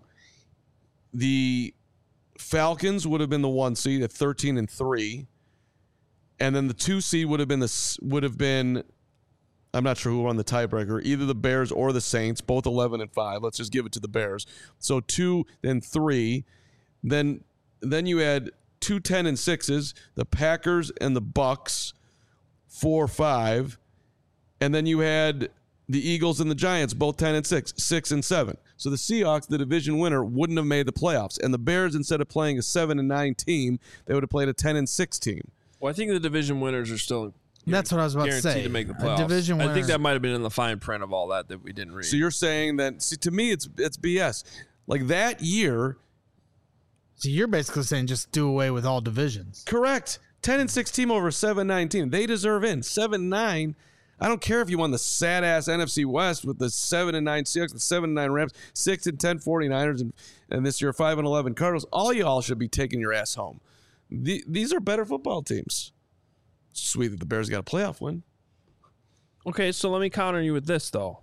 the Falcons would have been the 1 seed at 13-3, And then the 2 seed would have been I'm not sure who won the tiebreaker, either the Bears or the Saints, both 11-5. Let's just give it to the Bears. So 2, then 3. Then you had 2 10-6s, the Packers and the Bucks, 4-5. And then you had the Eagles and the Giants, both 10-6, 6-7. So the Seahawks, the division winner, wouldn't have made the playoffs. And the Bears, instead of playing a 7-9 team, they would have played a 10-6 team. Well, I think the division winners are still That's what I was about to guaranteed say. to make the playoffs. Division I winner. think that might have been in the fine print of all that we didn't read. So you're saying that, see, to me, it's BS. Like that year, So you're basically saying just do away with all divisions. correct, 10-6 team over a 7-9 team. They deserve in. 7-9, I don't care if you won the sad-ass NFC West with the 7-9 Seahawks, the 7-9 Rams, 6-10 49ers, and this year 5-11 Cardinals. All y'all should be taking your ass home. These are better football teams. Sweet that the Bears got a playoff win. Okay, so let me counter you with this, though.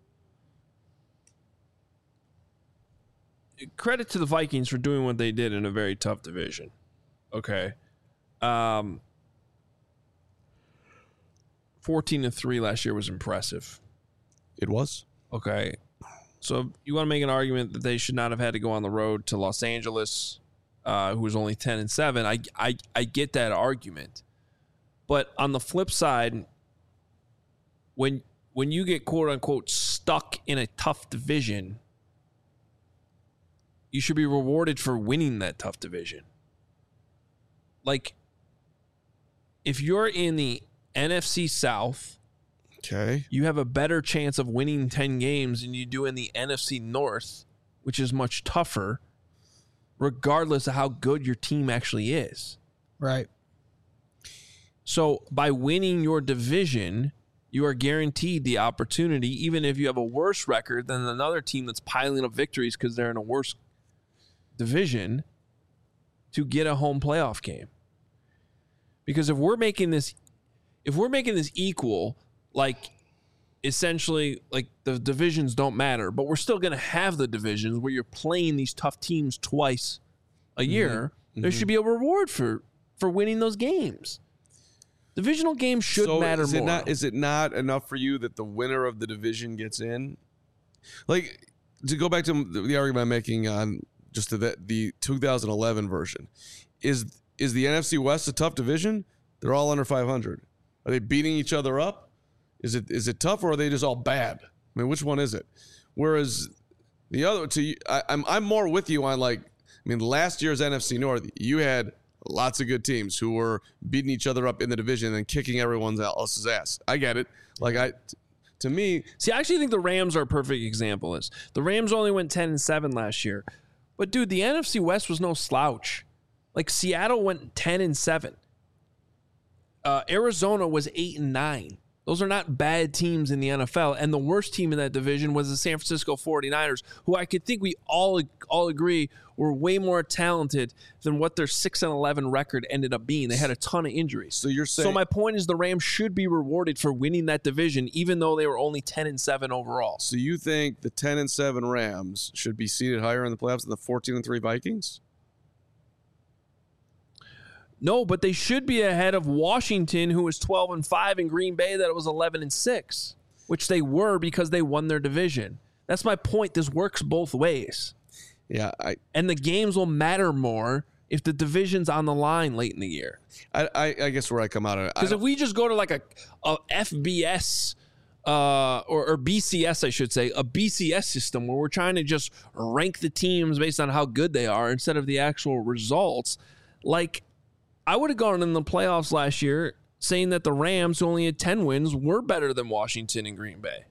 Credit to the Vikings for doing what they did in a very tough division. Okay. 14-3 last year was impressive. It was. Okay. So you want to make an argument that they should not have had to go on the road to Los Angeles, who was only 10-7. I get that argument. But on the flip side, when you get quote unquote stuck in a tough division, you should be rewarded for winning that tough division. Like, if you're in the NFC South, Okay. you have a better chance of winning 10 games than you do in the NFC North, which is much tougher, regardless of how good your team actually is. Right. So by winning your division, you are guaranteed the opportunity, even if you have a worse record than another team that's piling up victories because they're in a worse division, to get a home playoff game. Because if we're making this equal, like essentially like the divisions don't matter, but we're still going to have the divisions where you're playing these tough teams twice a year, there should be a reward for winning those games. Divisional games should matter more. Is it not enough for you that the winner of the division gets in? Like, to go back to the argument I'm making on just the 2011 version, is the NFC West a tough division? They're all under 500. Are they beating each other up? Is it tough, or are they just all bad? I mean, which one is it? Whereas the other two, I'm more with you on, like, I mean, last year's NFC North, you had lots of good teams who were beating each other up in the division and kicking everyone else's ass. I get it. Like, to me, see, I actually think the Rams are a perfect example of this. The Rams only went 10-7 last year, but dude, the NFC West was no slouch. Like, Seattle went 10-7. Arizona was 8-9. Those are not bad teams in the NFL. And the worst team in that division was the San Francisco 49ers, who I could think we all agree were way more talented than what their 6-11 record ended up being. They had a ton of injuries. So you're saying, so my point is the Rams should be rewarded for winning that division, even though they were only 10-7 overall. so you think the 10-7 Rams should be seated higher in the playoffs than the 14-3 Vikings? No, but they should be ahead of Washington, who was 12-5, and Green Bay that was 11-6, which they were because they won their division. That's my point. This works both ways. Yeah, And the games will matter more if the division's on the line late in the year. I guess where I come out of it, Because if we just go to like a FBS or BCS, I should say, a BCS system where we're trying to just rank the teams based on how good they are instead of the actual results, like I would have gone in the playoffs last year saying that the Rams, who only had 10 wins, were better than Washington and Green Bay.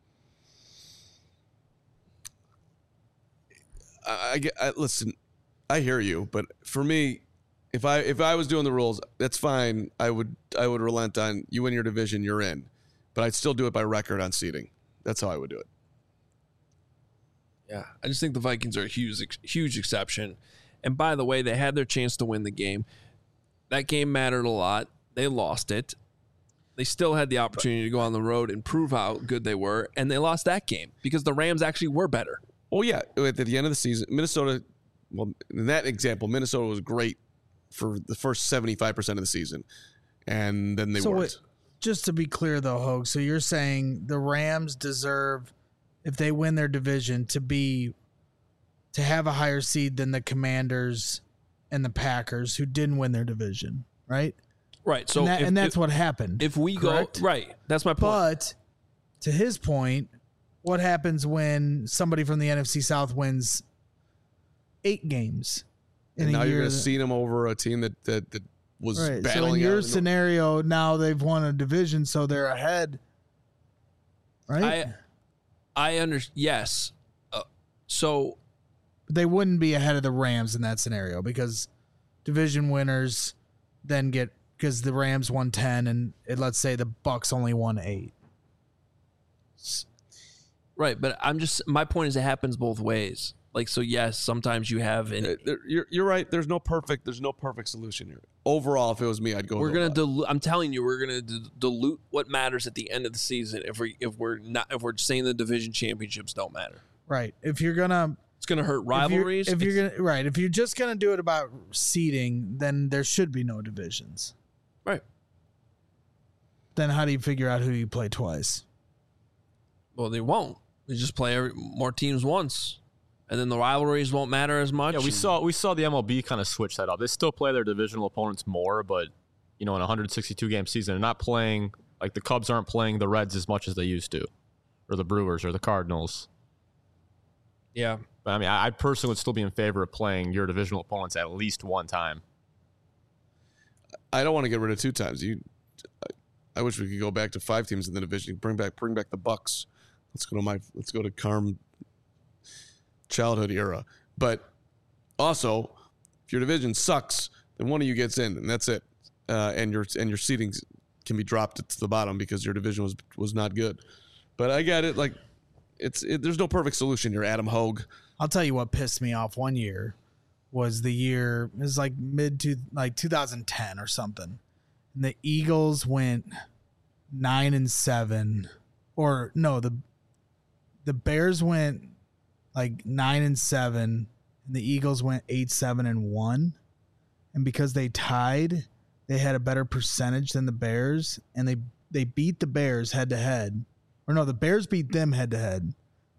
listen, I hear you, but for me, if I was doing the rules, that's fine. I would relent on you win your division, you're in, but I'd still do it by record on seeding. That's how I would do it. Yeah, I just think the Vikings are a huge exception. And by the way, they had their chance to win the game. That game mattered a lot. They lost it. They still had the opportunity to go on the road and prove how good they were, and they lost that game because the Rams actually were better. Oh, yeah. At the end of the season, Minnesota, well, in that example, Minnesota was great for the first 75% of the season. and then they weren't. Just to be clear, though, Hogue, so you're saying the Rams deserve, if they win their division, to have a higher seed than the Commanders and the Packers, who didn't win their division, right? Right. So that's what happened. If we correct? go right, that's my point. But to his point, what happens when somebody from the NFC South wins 8 games in and a now year? you're going to see them over a team that was right. battling. So in out your scenario, now they've won a division, so they're ahead. Right? I understand. Yes. So they wouldn't be ahead of the Rams in that scenario because division winners then get, because the Rams won 10 and let's say the Bucks only won 8. Right, but my point is it happens both ways. Like, so yes, sometimes you have you're right. There's no perfect solution here. Overall, if it was me, I'd go. We're gonna dilute. I'm telling you, we're gonna dilute what matters at the end of the season. If we're saying the division championships don't matter. Right. It's gonna hurt rivalries. If you're just gonna do it about seeding, then there should be no divisions. Right. Then how do you figure out who you play twice? Well, they won't. They just play more teams once. And then the rivalries won't matter as much. Yeah, we saw the MLB kind of switch that up. They still play their divisional opponents more, but in a 162 game season, they're not playing, like the Cubs aren't playing the Reds as much as they used to, or the Brewers or the Cardinals. Yeah. But I mean, I personally would still be in favor of playing your divisional opponents at least one time. I don't want to get rid of 2 times. I wish we could go back to 5 teams in the division. Bring back the Bucks. Let's go to Carm childhood era. But also, if your division sucks, then one of you gets in, and that's it. And your seeding can be dropped to the bottom because your division was not good. But I get it. Like there's no perfect solution here, Adam Hogue. I'll tell you what pissed me off one year was the year, it was like 2010 or something. And the Eagles went 9-7, or no, the Bears went like 9-7, and the Eagles went 8-7-1. And because they tied, they had a better percentage than the Bears, and they beat the Bears head to head. Or no, the Bears beat them head to head.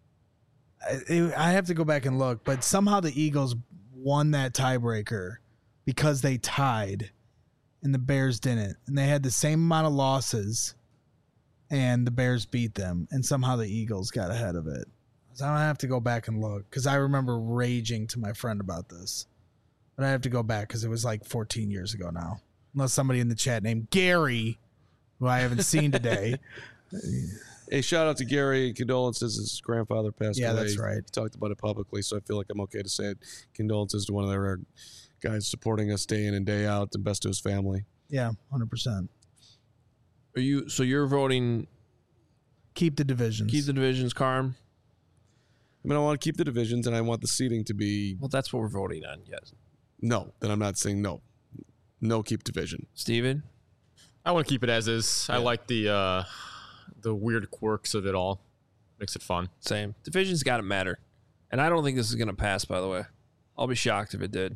I have to go back and look, but somehow the Eagles won that tiebreaker because they tied and the Bears didn't. And they had the same amount of losses and the Bears beat them, and somehow the Eagles got ahead of it. So I have to go back and look because I remember raging to my friend about this. But I have to go back because it was like 14 years ago now. Unless somebody in the chat named Gary, who I haven't seen today. Hey, shout out to Gary. Condolences. His grandfather passed away. Yeah, that's right. He talked about it publicly, so I feel like I'm okay to say it. Condolences to one of our guys supporting us day in and day out, and best to his family. Yeah, 100%. So you're voting keep the divisions. Keep the divisions, Carm? I mean, I want to keep the divisions, and I want the seeding to be... Well, that's what we're voting on, yes. No, then I'm not saying no. No, keep division. Steven? I want to keep it as is. Yeah. I like the weird quirks of it all. Makes it fun. Same. Division's got to matter. And I don't think this is going to pass, by the way. I'll be shocked if it did.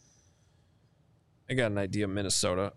I got an idea, Minnesota.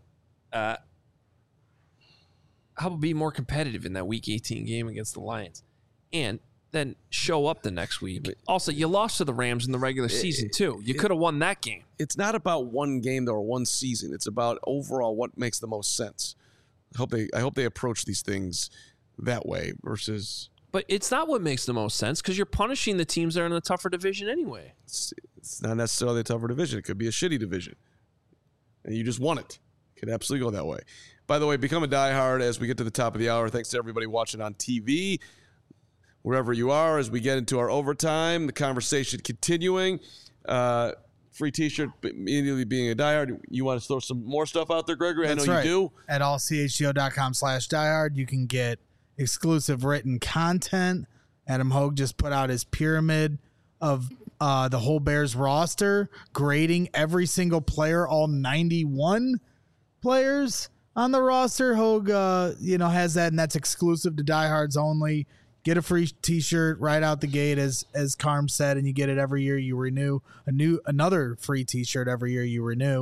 How about be more competitive in that Week 18 game against the Lions? And then show up the next week. Also, you lost to the Rams in the regular season, too. You could have won that game. It's not about one game, though, or one season. It's about overall what makes the most sense. I hope they approach these things that way versus... But it's not what makes the most sense because you're punishing the teams that are in the tougher division anyway. It's not necessarily a tougher division. It could be a shitty division. And you just won it. It could absolutely go that way. By the way, become a diehard as we get to the top of the hour. Thanks to everybody watching on TV, wherever you are, as we get into our overtime, the conversation continuing. Free t-shirt, immediately being a diehard. You want to throw some more stuff out there, Gregory? That's I know right. you do. At allchgo.com/diehard, you can get exclusive written content. Adam Hogue just put out his pyramid of the whole Bears roster, grading every single player, all 91 players on the roster. Hogue, has that, and that's exclusive to diehards only. Get a free t-shirt right out the gate, as Carm said, and you get it every year you renew. Another free t-shirt every year you renew.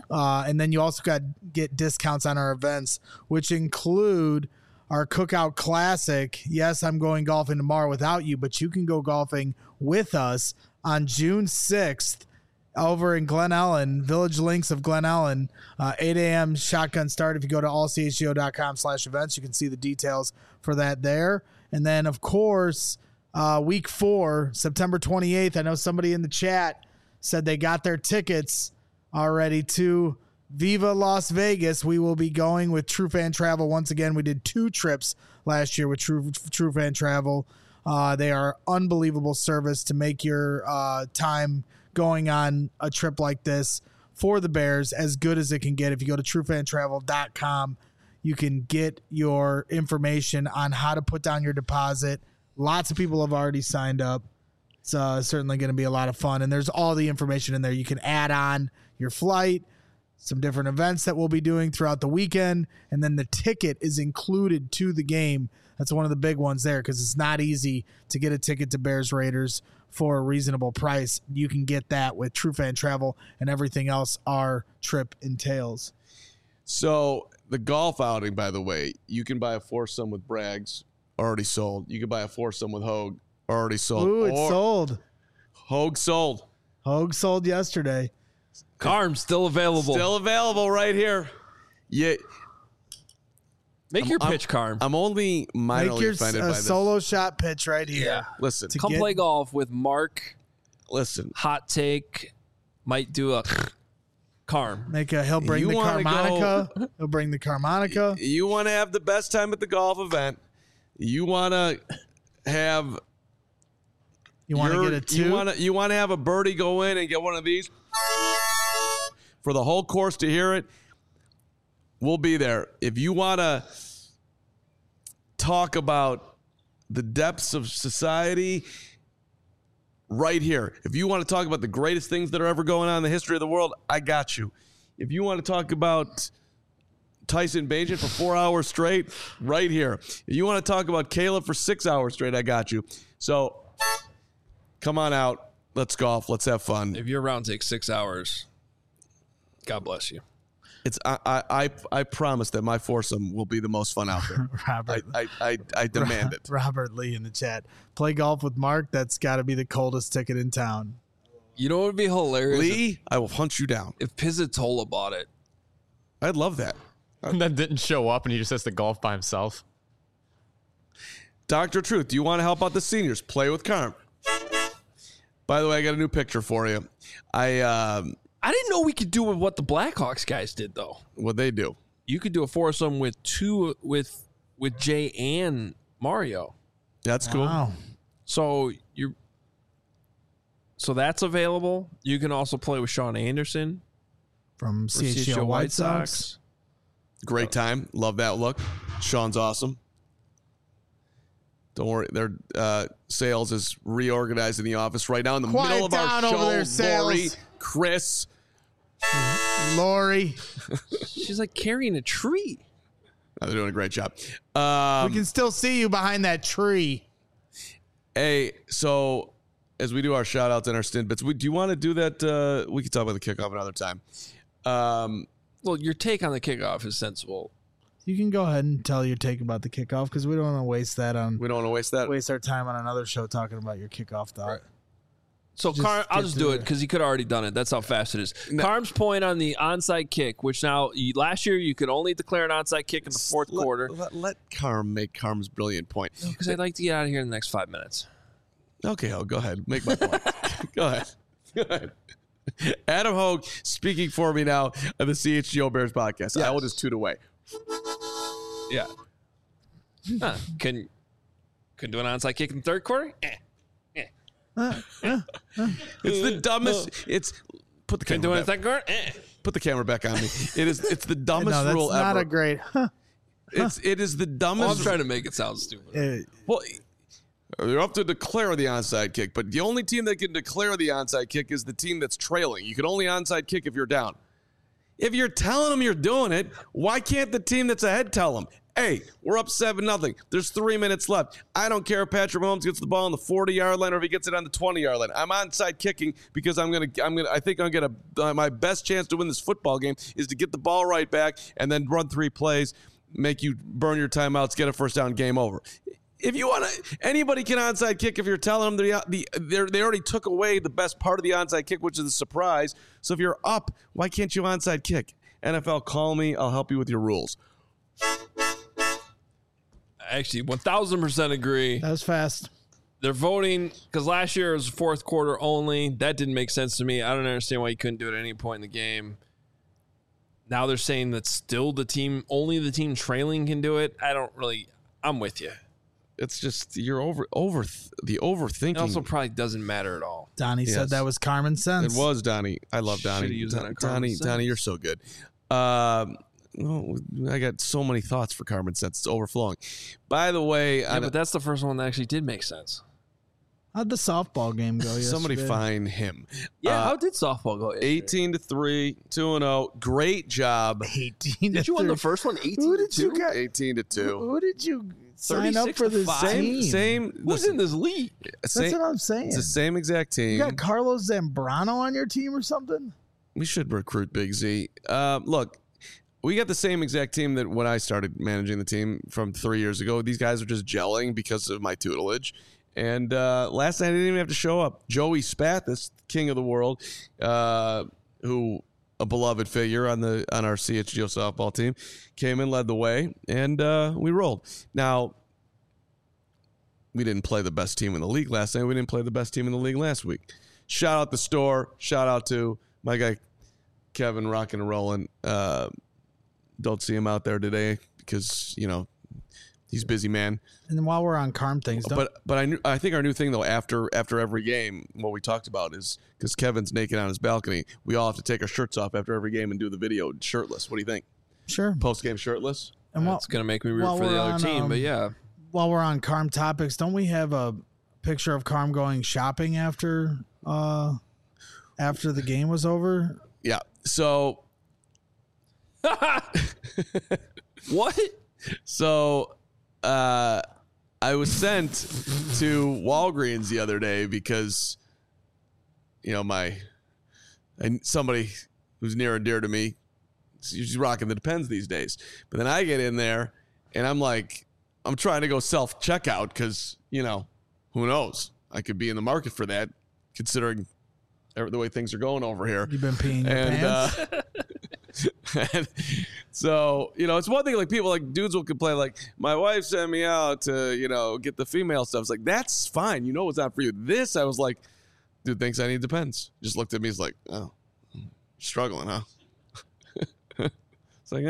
And then you also get discounts on our events, which include our Cookout Classic. Yes, I'm going golfing tomorrow without you, but you can go golfing with us on June 6th over in Glen Ellen, Village Links of Glen Ellen, 8 a.m. shotgun start. If you go to allchgo.com/events, you can see the details for that there. And then, of course, week 4, September 28th, I know somebody in the chat said they got their tickets already to Viva Las Vegas. We will be going with True Fan Travel once again. We did 2 trips last year with True Fan Travel. They are unbelievable service to make your time going on a trip like this for the Bears as good as it can get. If you go to truefantravel.com, you can get your information on how to put down your deposit. Lots of people have already signed up. It's certainly going to be a lot of fun, and there's all the information in there. You can add on your flight, some different events that we'll be doing throughout the weekend, and then the ticket is included to the game. That's one of the big ones there because it's not easy to get a ticket to Bears Raiders for a reasonable price. You can get that with True Fan Travel and everything else our trip entails. So the golf outing, by the way, you can buy a foursome with Braggs, already sold. You can buy a foursome with Hogue, already sold. Ooh, it's sold. Hogue sold. Hogue sold yesterday. Carm still available. Still available right here. Yeah. Make your pitch, Carm. I'm only minorly offended by this. Solo shot pitch right here. Yeah. Listen. Come play golf with Mark. Listen. Hot take. Might do a Carm. He'll bring the Carmonica. He'll bring the Carmonica. You want to have the best time at the golf event. You want to have... You want to get a 2? You want to have a birdie go in and get one of these for the whole course to hear it. We'll be there. If you want to talk about the depths of society, right here. If you want to talk about the greatest things that are ever going on in the history of the world, I got you. If you want to talk about Tyson Bagent for 4 hours straight, right here. If you want to talk about Caleb for 6 hours straight, I got you. So come on out. Let's golf. Let's have fun. If your round takes 6 hours, God bless you. It's I promise that my foursome will be the most fun out there. Robert, I demand it. Robert Lee in the chat. Play golf with Mark. That's got to be the coldest ticket in town. You know what would be hilarious? Lee, I will hunt you down. If Pizzatola bought it. I'd love that. And then didn't show up and he just has to golf by himself. Dr. Truth, do you want to help out the seniors? Play with Carm. By the way, I got a new picture for you. I didn't know we could do what the Blackhawks guys did, though. What'd they do? You could do a foursome with Jay and Mario. That's cool. Wow. So that's available. You can also play with Sean Anderson From CHGO White Sox. Great time. Love that look. Sean's awesome. Don't worry. Their sales is reorganized in the office right now in the middle of our show. Lori, Chris. Lori. She's like carrying a tree. Oh, they're doing a great job. We can still see you behind that tree. Hey, so as we do our shout outs and our stint bits, do you want to do that? We can talk about the kickoff another time. Well, your take on the kickoff is sensible. You can go ahead and tell your take about the kickoff because we don't want to waste that on. We don't want to waste that. Waste our time on another show talking about your kickoff thought. Right. So I'll just do it because he could have already done it. That's how fast it is. No. Carm's point on the onside kick, which now last year you could only declare an onside kick in the fourth quarter. Let Carm make Carm's brilliant point. Because I'd like to get out of here in the next 5 minutes. Okay, go ahead. Make my point. Go ahead. Adam Hogue speaking for me now of the CHGO Bears podcast. Yes. I will just toot away. Yeah. Couldn't do an onside kick in the third quarter? It's the dumbest. Put the camera back. Put the camera back on me. It's the dumbest rule ever. Not a great. It is the dumbest. Well, I'm trying to make it sound stupid. Well, they're up to declare the onside kick, but the only team that can declare the onside kick is the team that's trailing. You can only onside kick if you're down. If you're telling them you're doing it, why can't the team that's ahead tell them? Hey, we're up 7-0. There's 3 minutes left. I don't care if Patrick Mahomes gets the ball on the 40-yard line or if he gets it on the 20-yard line. I'm onside kicking because I think I'm gonna my best chance to win this football game is to get the ball right back and then run 3 plays, make you burn your timeouts, get a first down, game over. If you want to, anybody can onside kick if you're telling them they already took away the best part of the onside kick, which is the surprise. So if you're up, why can't you onside kick? NFL, call me. I'll help you with your rules. Actually, 1,000% agree. That was fast. They're voting because last year it was fourth quarter only. That didn't make sense to me. I don't understand why you couldn't do it at any point in the game. Now they're saying that still only the team trailing can do it. I'm with you. It's just you're the overthinking. It also probably doesn't matter at all. Donnie said that was common sense. It was Donnie. I love Donnie. Should've used that on common sense. Donnie, you're so good. I got so many thoughts for common sense. It's overflowing. By the way, but that's the first one that actually did make sense. How'd the softball game go yesterday? Somebody find him. Yeah, how did softball go? 18-3, 2-0. Great job. 18. Did you win the first one? 18-2. 18-2. Who did you sign up for this 36-5? team? Same. Who's in this league? That's what I'm saying. It's the same exact team. You got Carlos Zambrano on your team or something? We should recruit Big Z. Look, we got the same exact team that when I started managing the team from 3 years ago. These guys are just gelling because of my tutelage. And last night I didn't even have to show up. Joey Spathis, king of the world, who a beloved figure on our CHGO softball team, came in, led the way, and we rolled. Now, we didn't play the best team in the league last night. We didn't play the best team in the league last week. Shout out the store. Shout out to my guy Kevin, rocking and rolling. Don't see him out there today because he's busy, man. And then while we're on Carm things, but I think our new thing though after every game, what we talked about is because Kevin's naked on his balcony, we all have to take our shirts off after every game and do the video shirtless. What do you think? Sure. Post game shirtless. And It's gonna make me root for the other team, but yeah. While we're on Carm topics, don't we have a picture of Carm going shopping after the game was over? Yeah. So. What? So, I was sent to Walgreens the other day because, somebody who's near and dear to me, she's rocking the Depends these days. But then I get in there and I'm trying to go self-checkout because, who knows? I could be in the market for that considering the way things are going over here. You've been peeing your pants? And so, it's one thing like people like dudes will complain like my wife sent me out to, get the female stuff. It's like, that's fine. It's not for you. This, I was like, dude thinks I need Depends. Just looked at me. He's like, oh, struggling, huh? It's like,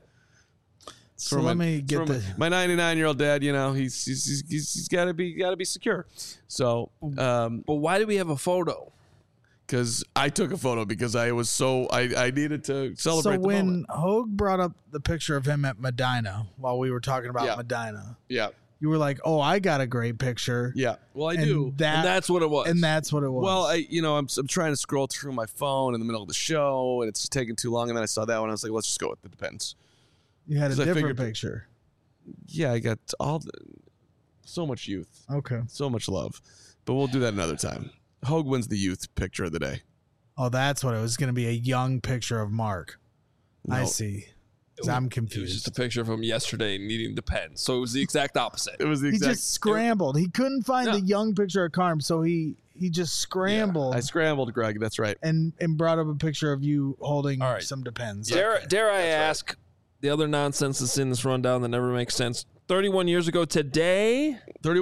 So let me get my 99-year-old dad, he's got to be secure. So, but why do we have a photo? Because I took a photo because I needed to celebrate. So when Hogue brought up the picture of him at Medina while we were talking about Medina, you were like, "Oh, I got a great picture." Yeah, well, I do, and that's what it was. And that's what it was. Well, I'm trying to scroll through my phone in the middle of the show, and it's just taking too long. And then I saw that one, I was like, "Let's just go with the Depends." You had a different picture. Yeah, I got so much youth. Okay, so much love, but we'll do that another time. Hogue wins the youth picture of the day. Oh, that's what it was going to be, a young picture of Mark. No. I see. I'm confused. It was just a picture of him yesterday needing Depends. So it was the exact opposite. He just scrambled. He couldn't find the young picture of Carm, so he just scrambled. Yeah, I scrambled, Greg. That's right. And brought up a picture of you holding some Depends. Dare I ask the other nonsense that's in this rundown that never makes sense? 31 years ago today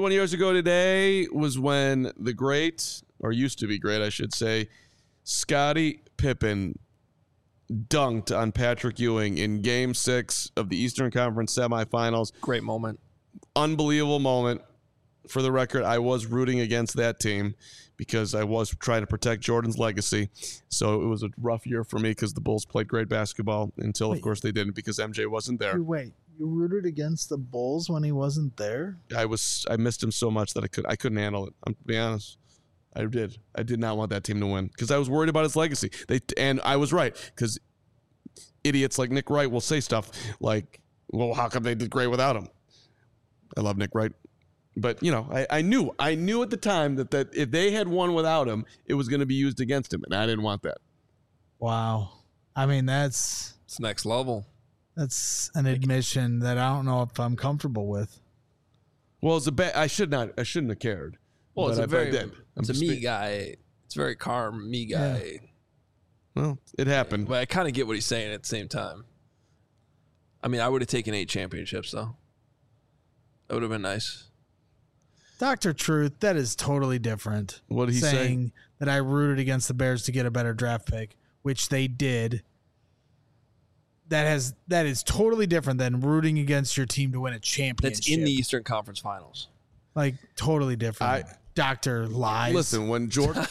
was when the great, or used to be great, I should say, Scottie Pippen dunked on Patrick Ewing in Game 6 of the Eastern Conference semifinals. Great moment. Unbelievable moment. For the record, I was rooting against that team because I was trying to protect Jordan's legacy. So it was a rough year for me because the Bulls played great basketball until, of course, they didn't because MJ wasn't there. Wait, you rooted against the Bulls when he wasn't there? I missed him so much that I couldn't handle it. I'm to be honest. I did not want that team to win because I was worried about his legacy. And I was right because idiots like Nick Wright will say stuff like, Well, how come they did great without him? I love Nick Wright. But, I knew at the time that if they had won without him, it was going to be used against him, and I didn't want that. Wow. I mean, it's next level. That's an admission that I don't know if I'm comfortable with. Well, it's I shouldn't have cared. Well, but it's a me guy. It's a very calm me guy. Yeah. Well, it happened. But I kind of get what he's saying at the same time. I mean, I would have taken 8 championships, though. That would have been nice. Dr. Truth, that is totally different. What did he say? Saying that I rooted against the Bears to get a better draft pick, which they did. That is totally different than rooting against your team to win a championship. That's in the Eastern Conference Finals. Like, totally different. Dr. Lies. Listen, when Jordan...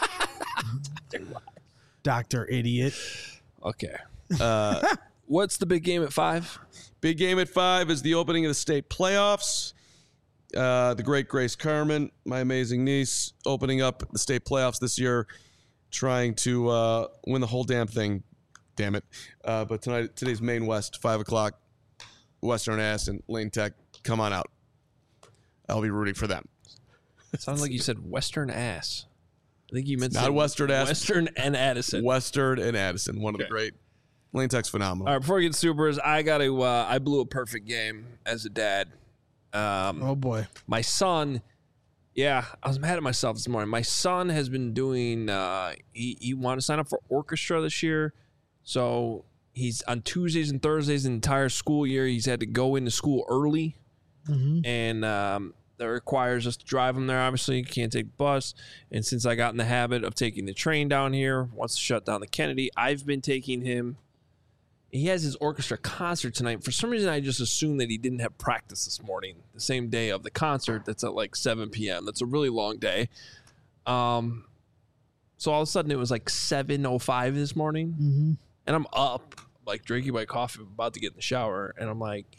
Dr. Idiot. Okay. What's the big game at 5? Big game at 5 is the opening of the state playoffs. The great Grace Carmen, my amazing niece, opening up the state playoffs this year, trying to win the whole damn thing. Damn it. But today's Maine West, 5 o'clock, Western Ass and Lane Tech. Come on out. I'll be rooting for them. It sounds like you said Western Ass. I think you meant not Western Ass. Western and Addison. Western and Addison, one of the great. Lane Tech's phenomenal. All right, before we get to Supers, I blew a perfect game as a dad. Oh, boy. My son, I was mad at myself this morning. My son has been doing, he wanted to sign up for orchestra this year. So he's on Tuesdays and Thursdays the entire school year. He's had to go into school early. Mm-hmm. And that requires us to drive him there. Obviously, you can't take the bus. And since I got in the habit of taking the train down here, wants to shut down the Kennedy, I've been taking him. He has his orchestra concert tonight. For some reason, I just assumed that he didn't have practice this morning, the same day of the concert. That's at like 7 p.m. That's a really long day. So all of a sudden, it was like 7:05 this morning. Mm-hmm. And I'm up, like drinking my coffee, about to get in the shower. And I'm like,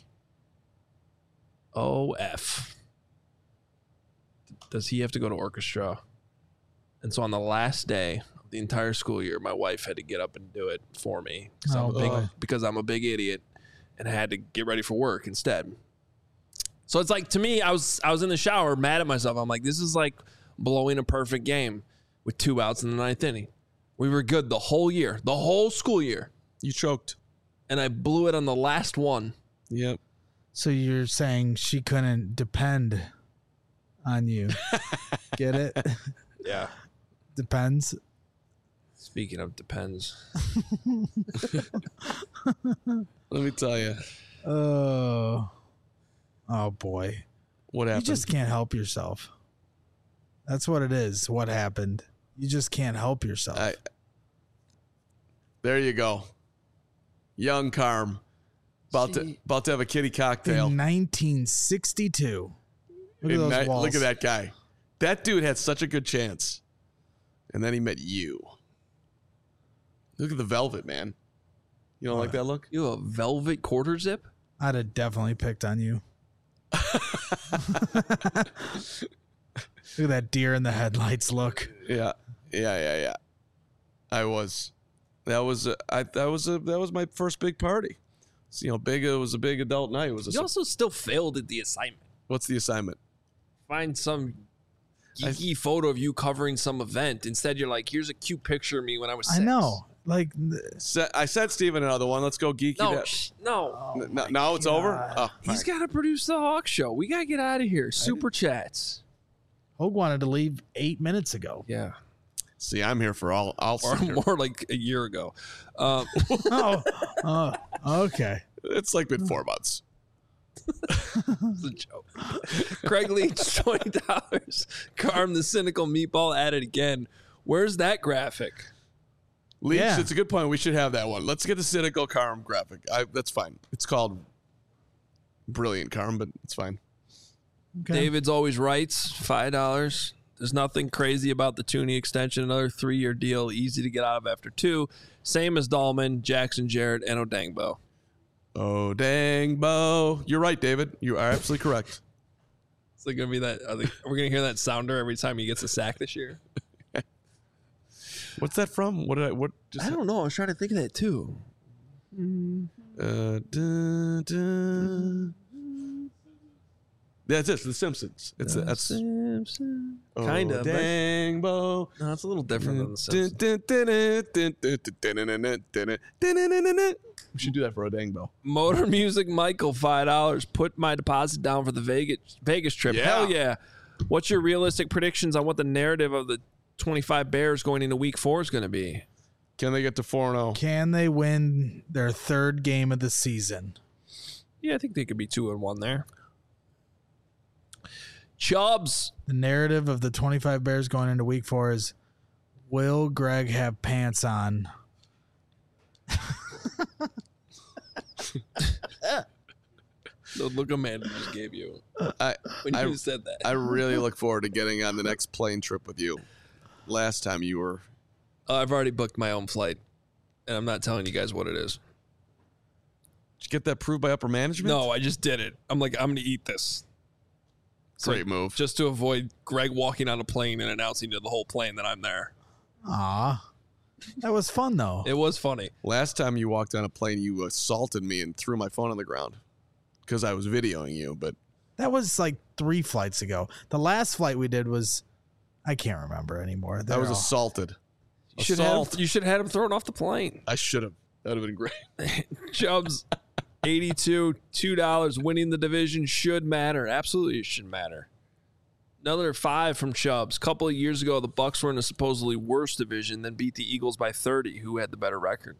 oh, F. Does he have to go to orchestra? And so on the last day of the entire school year, my wife had to get up and do it for me because I'm a big idiot and I had to get ready for work instead. So it's like, to me, I was in the shower mad at myself. I'm like, this is like blowing a perfect game with 2 outs in the 9th inning. We were good the whole year, the whole school year. You choked. And I blew it on the last one. Yep. So you're saying she couldn't depend on you. Get it? Yeah. Depends. Speaking of depends. Let me tell you. Oh boy. What happened? You just can't help yourself. That's what it is. What happened? You just can't help yourself. There you go. Young Carm. About to have a kitty cocktail. In 1962. Look at those walls. Look at that guy. That dude had such a good chance. And then he met you. Look at the velvet, man. You don't like that look? You have a velvet quarter zip? I'd have definitely picked on you. Look at that deer in the headlights look. Yeah. I was. That was my first big party. So, it was a big adult night. You also still failed at the assignment. What's the assignment? Find some geeky photo of you covering some event. Instead, you're like, here's a cute picture of me when I was 6. I know. Like, I sent Steven another one. Let's go geeky. No. Now it's over? Oh, he's got to produce the Hawk Show. We got to get out of here. Super chats. Hogue wanted to leave 8 minutes ago. Yeah. See, I'm here for all. Or more like a year ago. Okay. It's like been 4 months. It's a joke. Craig Leach, $20. Carm the cynical meatball at it again. Where's that graphic? Leach, it's a good point. We should have that one. Let's get the cynical Carm graphic. That's fine. It's called Brilliant Carm, but it's fine. Okay. David's always writes, $5. There's nothing crazy about the Tooney extension. Another 3-year deal, easy to get out of after 2. Same as Dahlman, Jackson Jarrett, and Odangbo. Odangbo. You're right, David. You are absolutely correct. It's like going to be that. We're going to hear that sounder every time he gets a sack this year. What's that from? I don't know. I was trying to think of that too. That's it. The Simpsons. That's Simpsons. oh, Kind of. Dang, Bo. No, it's a little different than the Simpsons. We should do that for a dang bell. Motor Music Michael, $5. Put my deposit down for the Vegas trip. Yeah. Hell yeah. What's your realistic predictions on what the narrative of the 25 Bears going into week 4 is going to be? Can they get to 4-0? Can they win their third game of the season? Yeah, I think they could be 2-1 there. Chubbs. The narrative of the 25 Bears going into week 4 is, will Greg have pants on? The look Amanda just gave you when I you said that. I really look forward to getting on the next plane trip with you. Last time you were... I've already booked my own flight, and I'm not telling you guys what it is. Did you get that approved by upper management? No, I just did it. I'm like, I'm going to eat this. Great move. Just to avoid Greg walking on a plane and announcing to the whole plane that I'm there. Aw. That was fun, though. It was funny. Last time you walked on a plane, you assaulted me and threw my phone on the ground because I was videoing you. But That was like 3 flights ago. The last flight we did was, I can't remember anymore. I was assaulted. You should have had him thrown off the plane. I should have. That would have been great. Chubbs, 82, $2. Winning the division should matter. Absolutely, it should matter. Another 5 from Chubbs. A couple of years ago, the Bucs were in a supposedly worse division, then beat the Eagles by 30, who had the better record.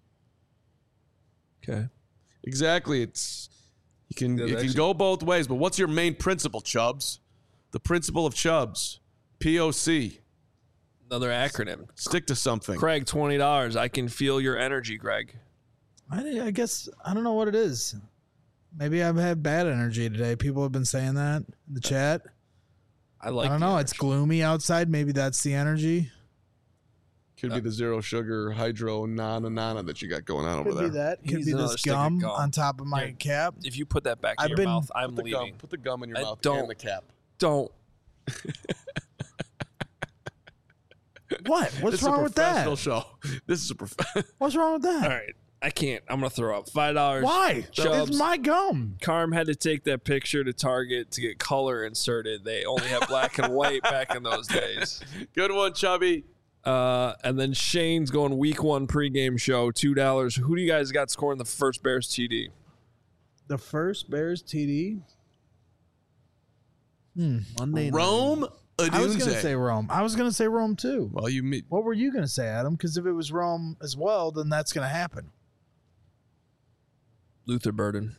Okay. Exactly. It can go both ways. But what's your main principle, Chubbs? The principle of Chubbs. POC. Another acronym. Stick to something. Craig, $20. I can feel your energy, Greg. I guess, I don't know what it is. Maybe I've had bad energy today. People have been saying that in the chat. I like. I don't know. It's gloomy outside. Maybe that's the energy. Could be the zero sugar hydro nana that you got going on over Could there. be that. Could He's be another this stick of gum gum. on top of my cap. If you put that back in I've your been- mouth, I'm Put the leaving. gum. Put the gum in your I mouth don't. and the cap. Don't. What? What's This wrong is a with that? professional show. This is a What's wrong with that? All right. I can't. I'm going to throw up. $5. Why? Chubbs. It's my gum. Carm had to take that picture to Target to get color inserted. They only had black and white back in those days. good one, Chubby. And then Shane's going week 1 pregame show, $2. Who do you guys got scoring the first Bears TD? The first Bears TD. Monday night. Rome I was going to Odunze. say Rome. I was going to say Rome too. Well, you meet. What were you going to say, Adam? Because if it was Rome as well, then that's going to happen. Luther Burden.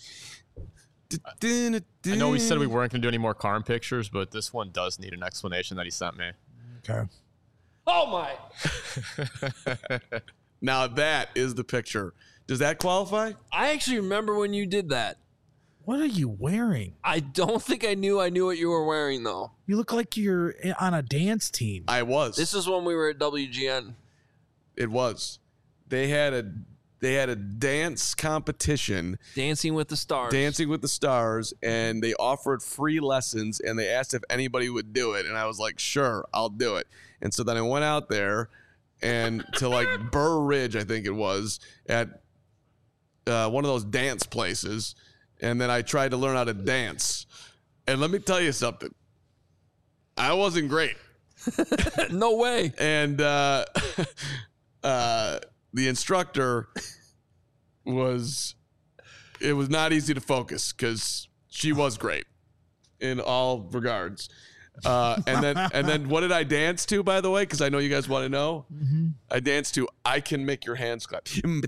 I know we said we weren't going to do any more Carm pictures, but this one does need an explanation that he sent me. Okay. Oh, my. Now that is the picture. Does that qualify? I actually remember when you did that. What are you wearing? I don't think I knew what you were wearing, though. You look like you're on a dance team. I was. This is when we were at WGN. It was. They had a dance competition, Dancing with the Stars. Dancing with the Stars, and they offered free lessons, and they asked if anybody would do it, and I was like, sure, I'll do it. And so then I went out there and to like Burr Ridge, I think it was, at one of those dance places, and then I tried to learn how to dance. And let me tell you something. I wasn't great. No way. And the instructor was not easy to focus because she was great in all regards. And then what did I dance to, by the way? Because I know you guys want to know. I danced to "I Can Make Your Hands Clap,"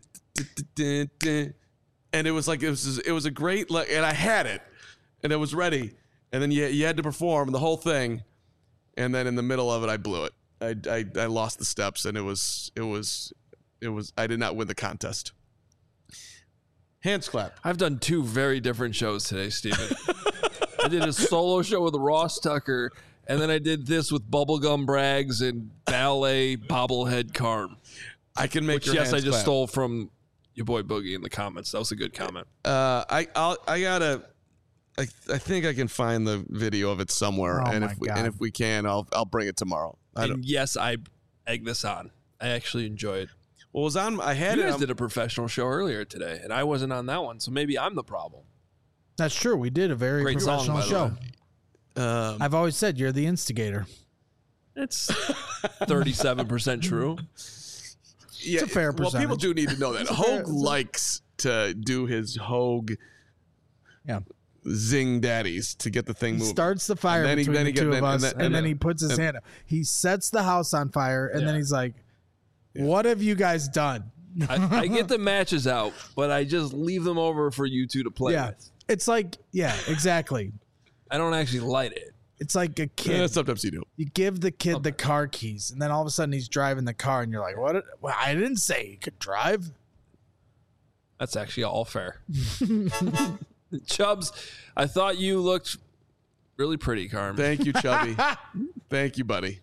and it was a great, and I had it, and it was ready, and then you had to perform the whole thing, and then in the middle of it, I blew it. I lost the steps, and it was I did not win the contest. Hands clap. I've done 2 very different shows today, Steven. I did a solo show with Ross Tucker, and then I did this with Bubblegum Braggs and Ballet Bobblehead Carm. I can make Which, your yes, hands I just clap. stole from your boy Boogie in the comments. That was a good comment. I think I can find the video of it somewhere, Oh and my God. if we can, I'll bring it tomorrow. And yes, I egg this on. I actually enjoy it. Well, it was on. I had You it. guys did a professional show earlier today, and I wasn't on that one, so maybe I'm the problem. That's true. We did a very Great song, professional by the show. way. I've always said you're the instigator. It's 37% true. Yeah, It's a fair Well, people percentage. do need to know that Hogue likes to do his Hogue Yeah. zing daddies to get the thing He moving. starts the fire And then he- between then he the get- two then- of and us, then- and then and- he puts his and- hand up. He sets the house on fire, and then he's like, "What have you guys done?" I get the matches out, but I just leave them over for you two to play Yeah, with. it's like, yeah, exactly. I don't actually light it. It's like a kid. Yeah, sometimes you do. You give the kid the car keys, and then all of a sudden he's driving the car, and you're like, "What? Well, I didn't say he could drive." That's actually all fair. Chubbs, I thought you looked really pretty, Carm. Thank you, Chubby. Thank you, buddy.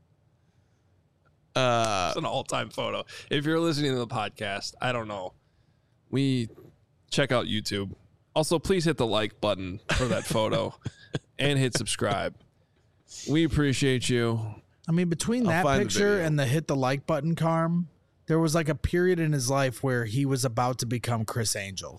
It's an all-time photo. If you're listening to the podcast, I don't know. We check out YouTube. Also, please hit the like button for that photo and hit subscribe. We appreciate you. I mean, between I'll that find the picture video. and the hit the like button, Carm, there was like a period in his life where he was about to become Chris Angel.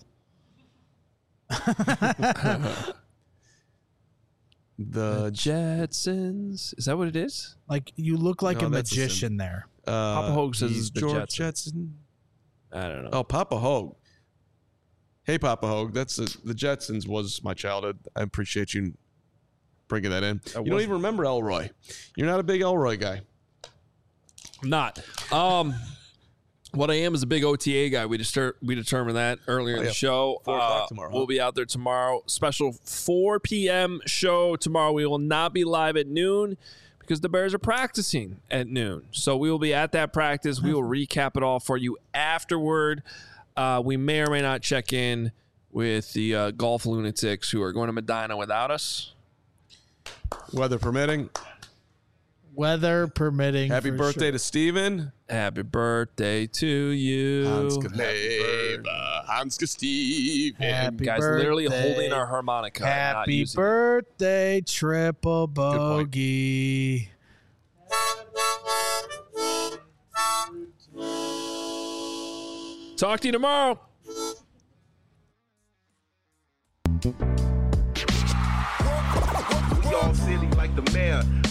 The Jetsons. Is that what it is? Like you look like No, a that's the magician there. Papa Hogue says he's it's the George Jetsons. Jetson. I don't know. Oh, Papa Hogue. Hey, Papa Hogue. That's the Jetsons was my childhood. I appreciate you bringing that in. You don't even remember Elroy. You're not a big Elroy guy. I'm not. What I am is a big OTA guy. We determined that earlier in the show. 4 o'clock tomorrow, huh? We'll be out there tomorrow. Special 4 p.m. show tomorrow. We will not be live at noon because the Bears are practicing at noon. So we will be at that practice. We will recap it all for you afterward. We may or may not check in with the golf lunatics who are going to Medina without us. Weather permitting. Weather permitting. Happy for birthday sure. to Steven. Happy birthday to you. Hanska Leva, Hanska Steven. Happy Guys, literally birthday. holding our harmonica. and not Happy using it. birthday, triple point. bogey. Talk to you tomorrow. We all silly like the mayor.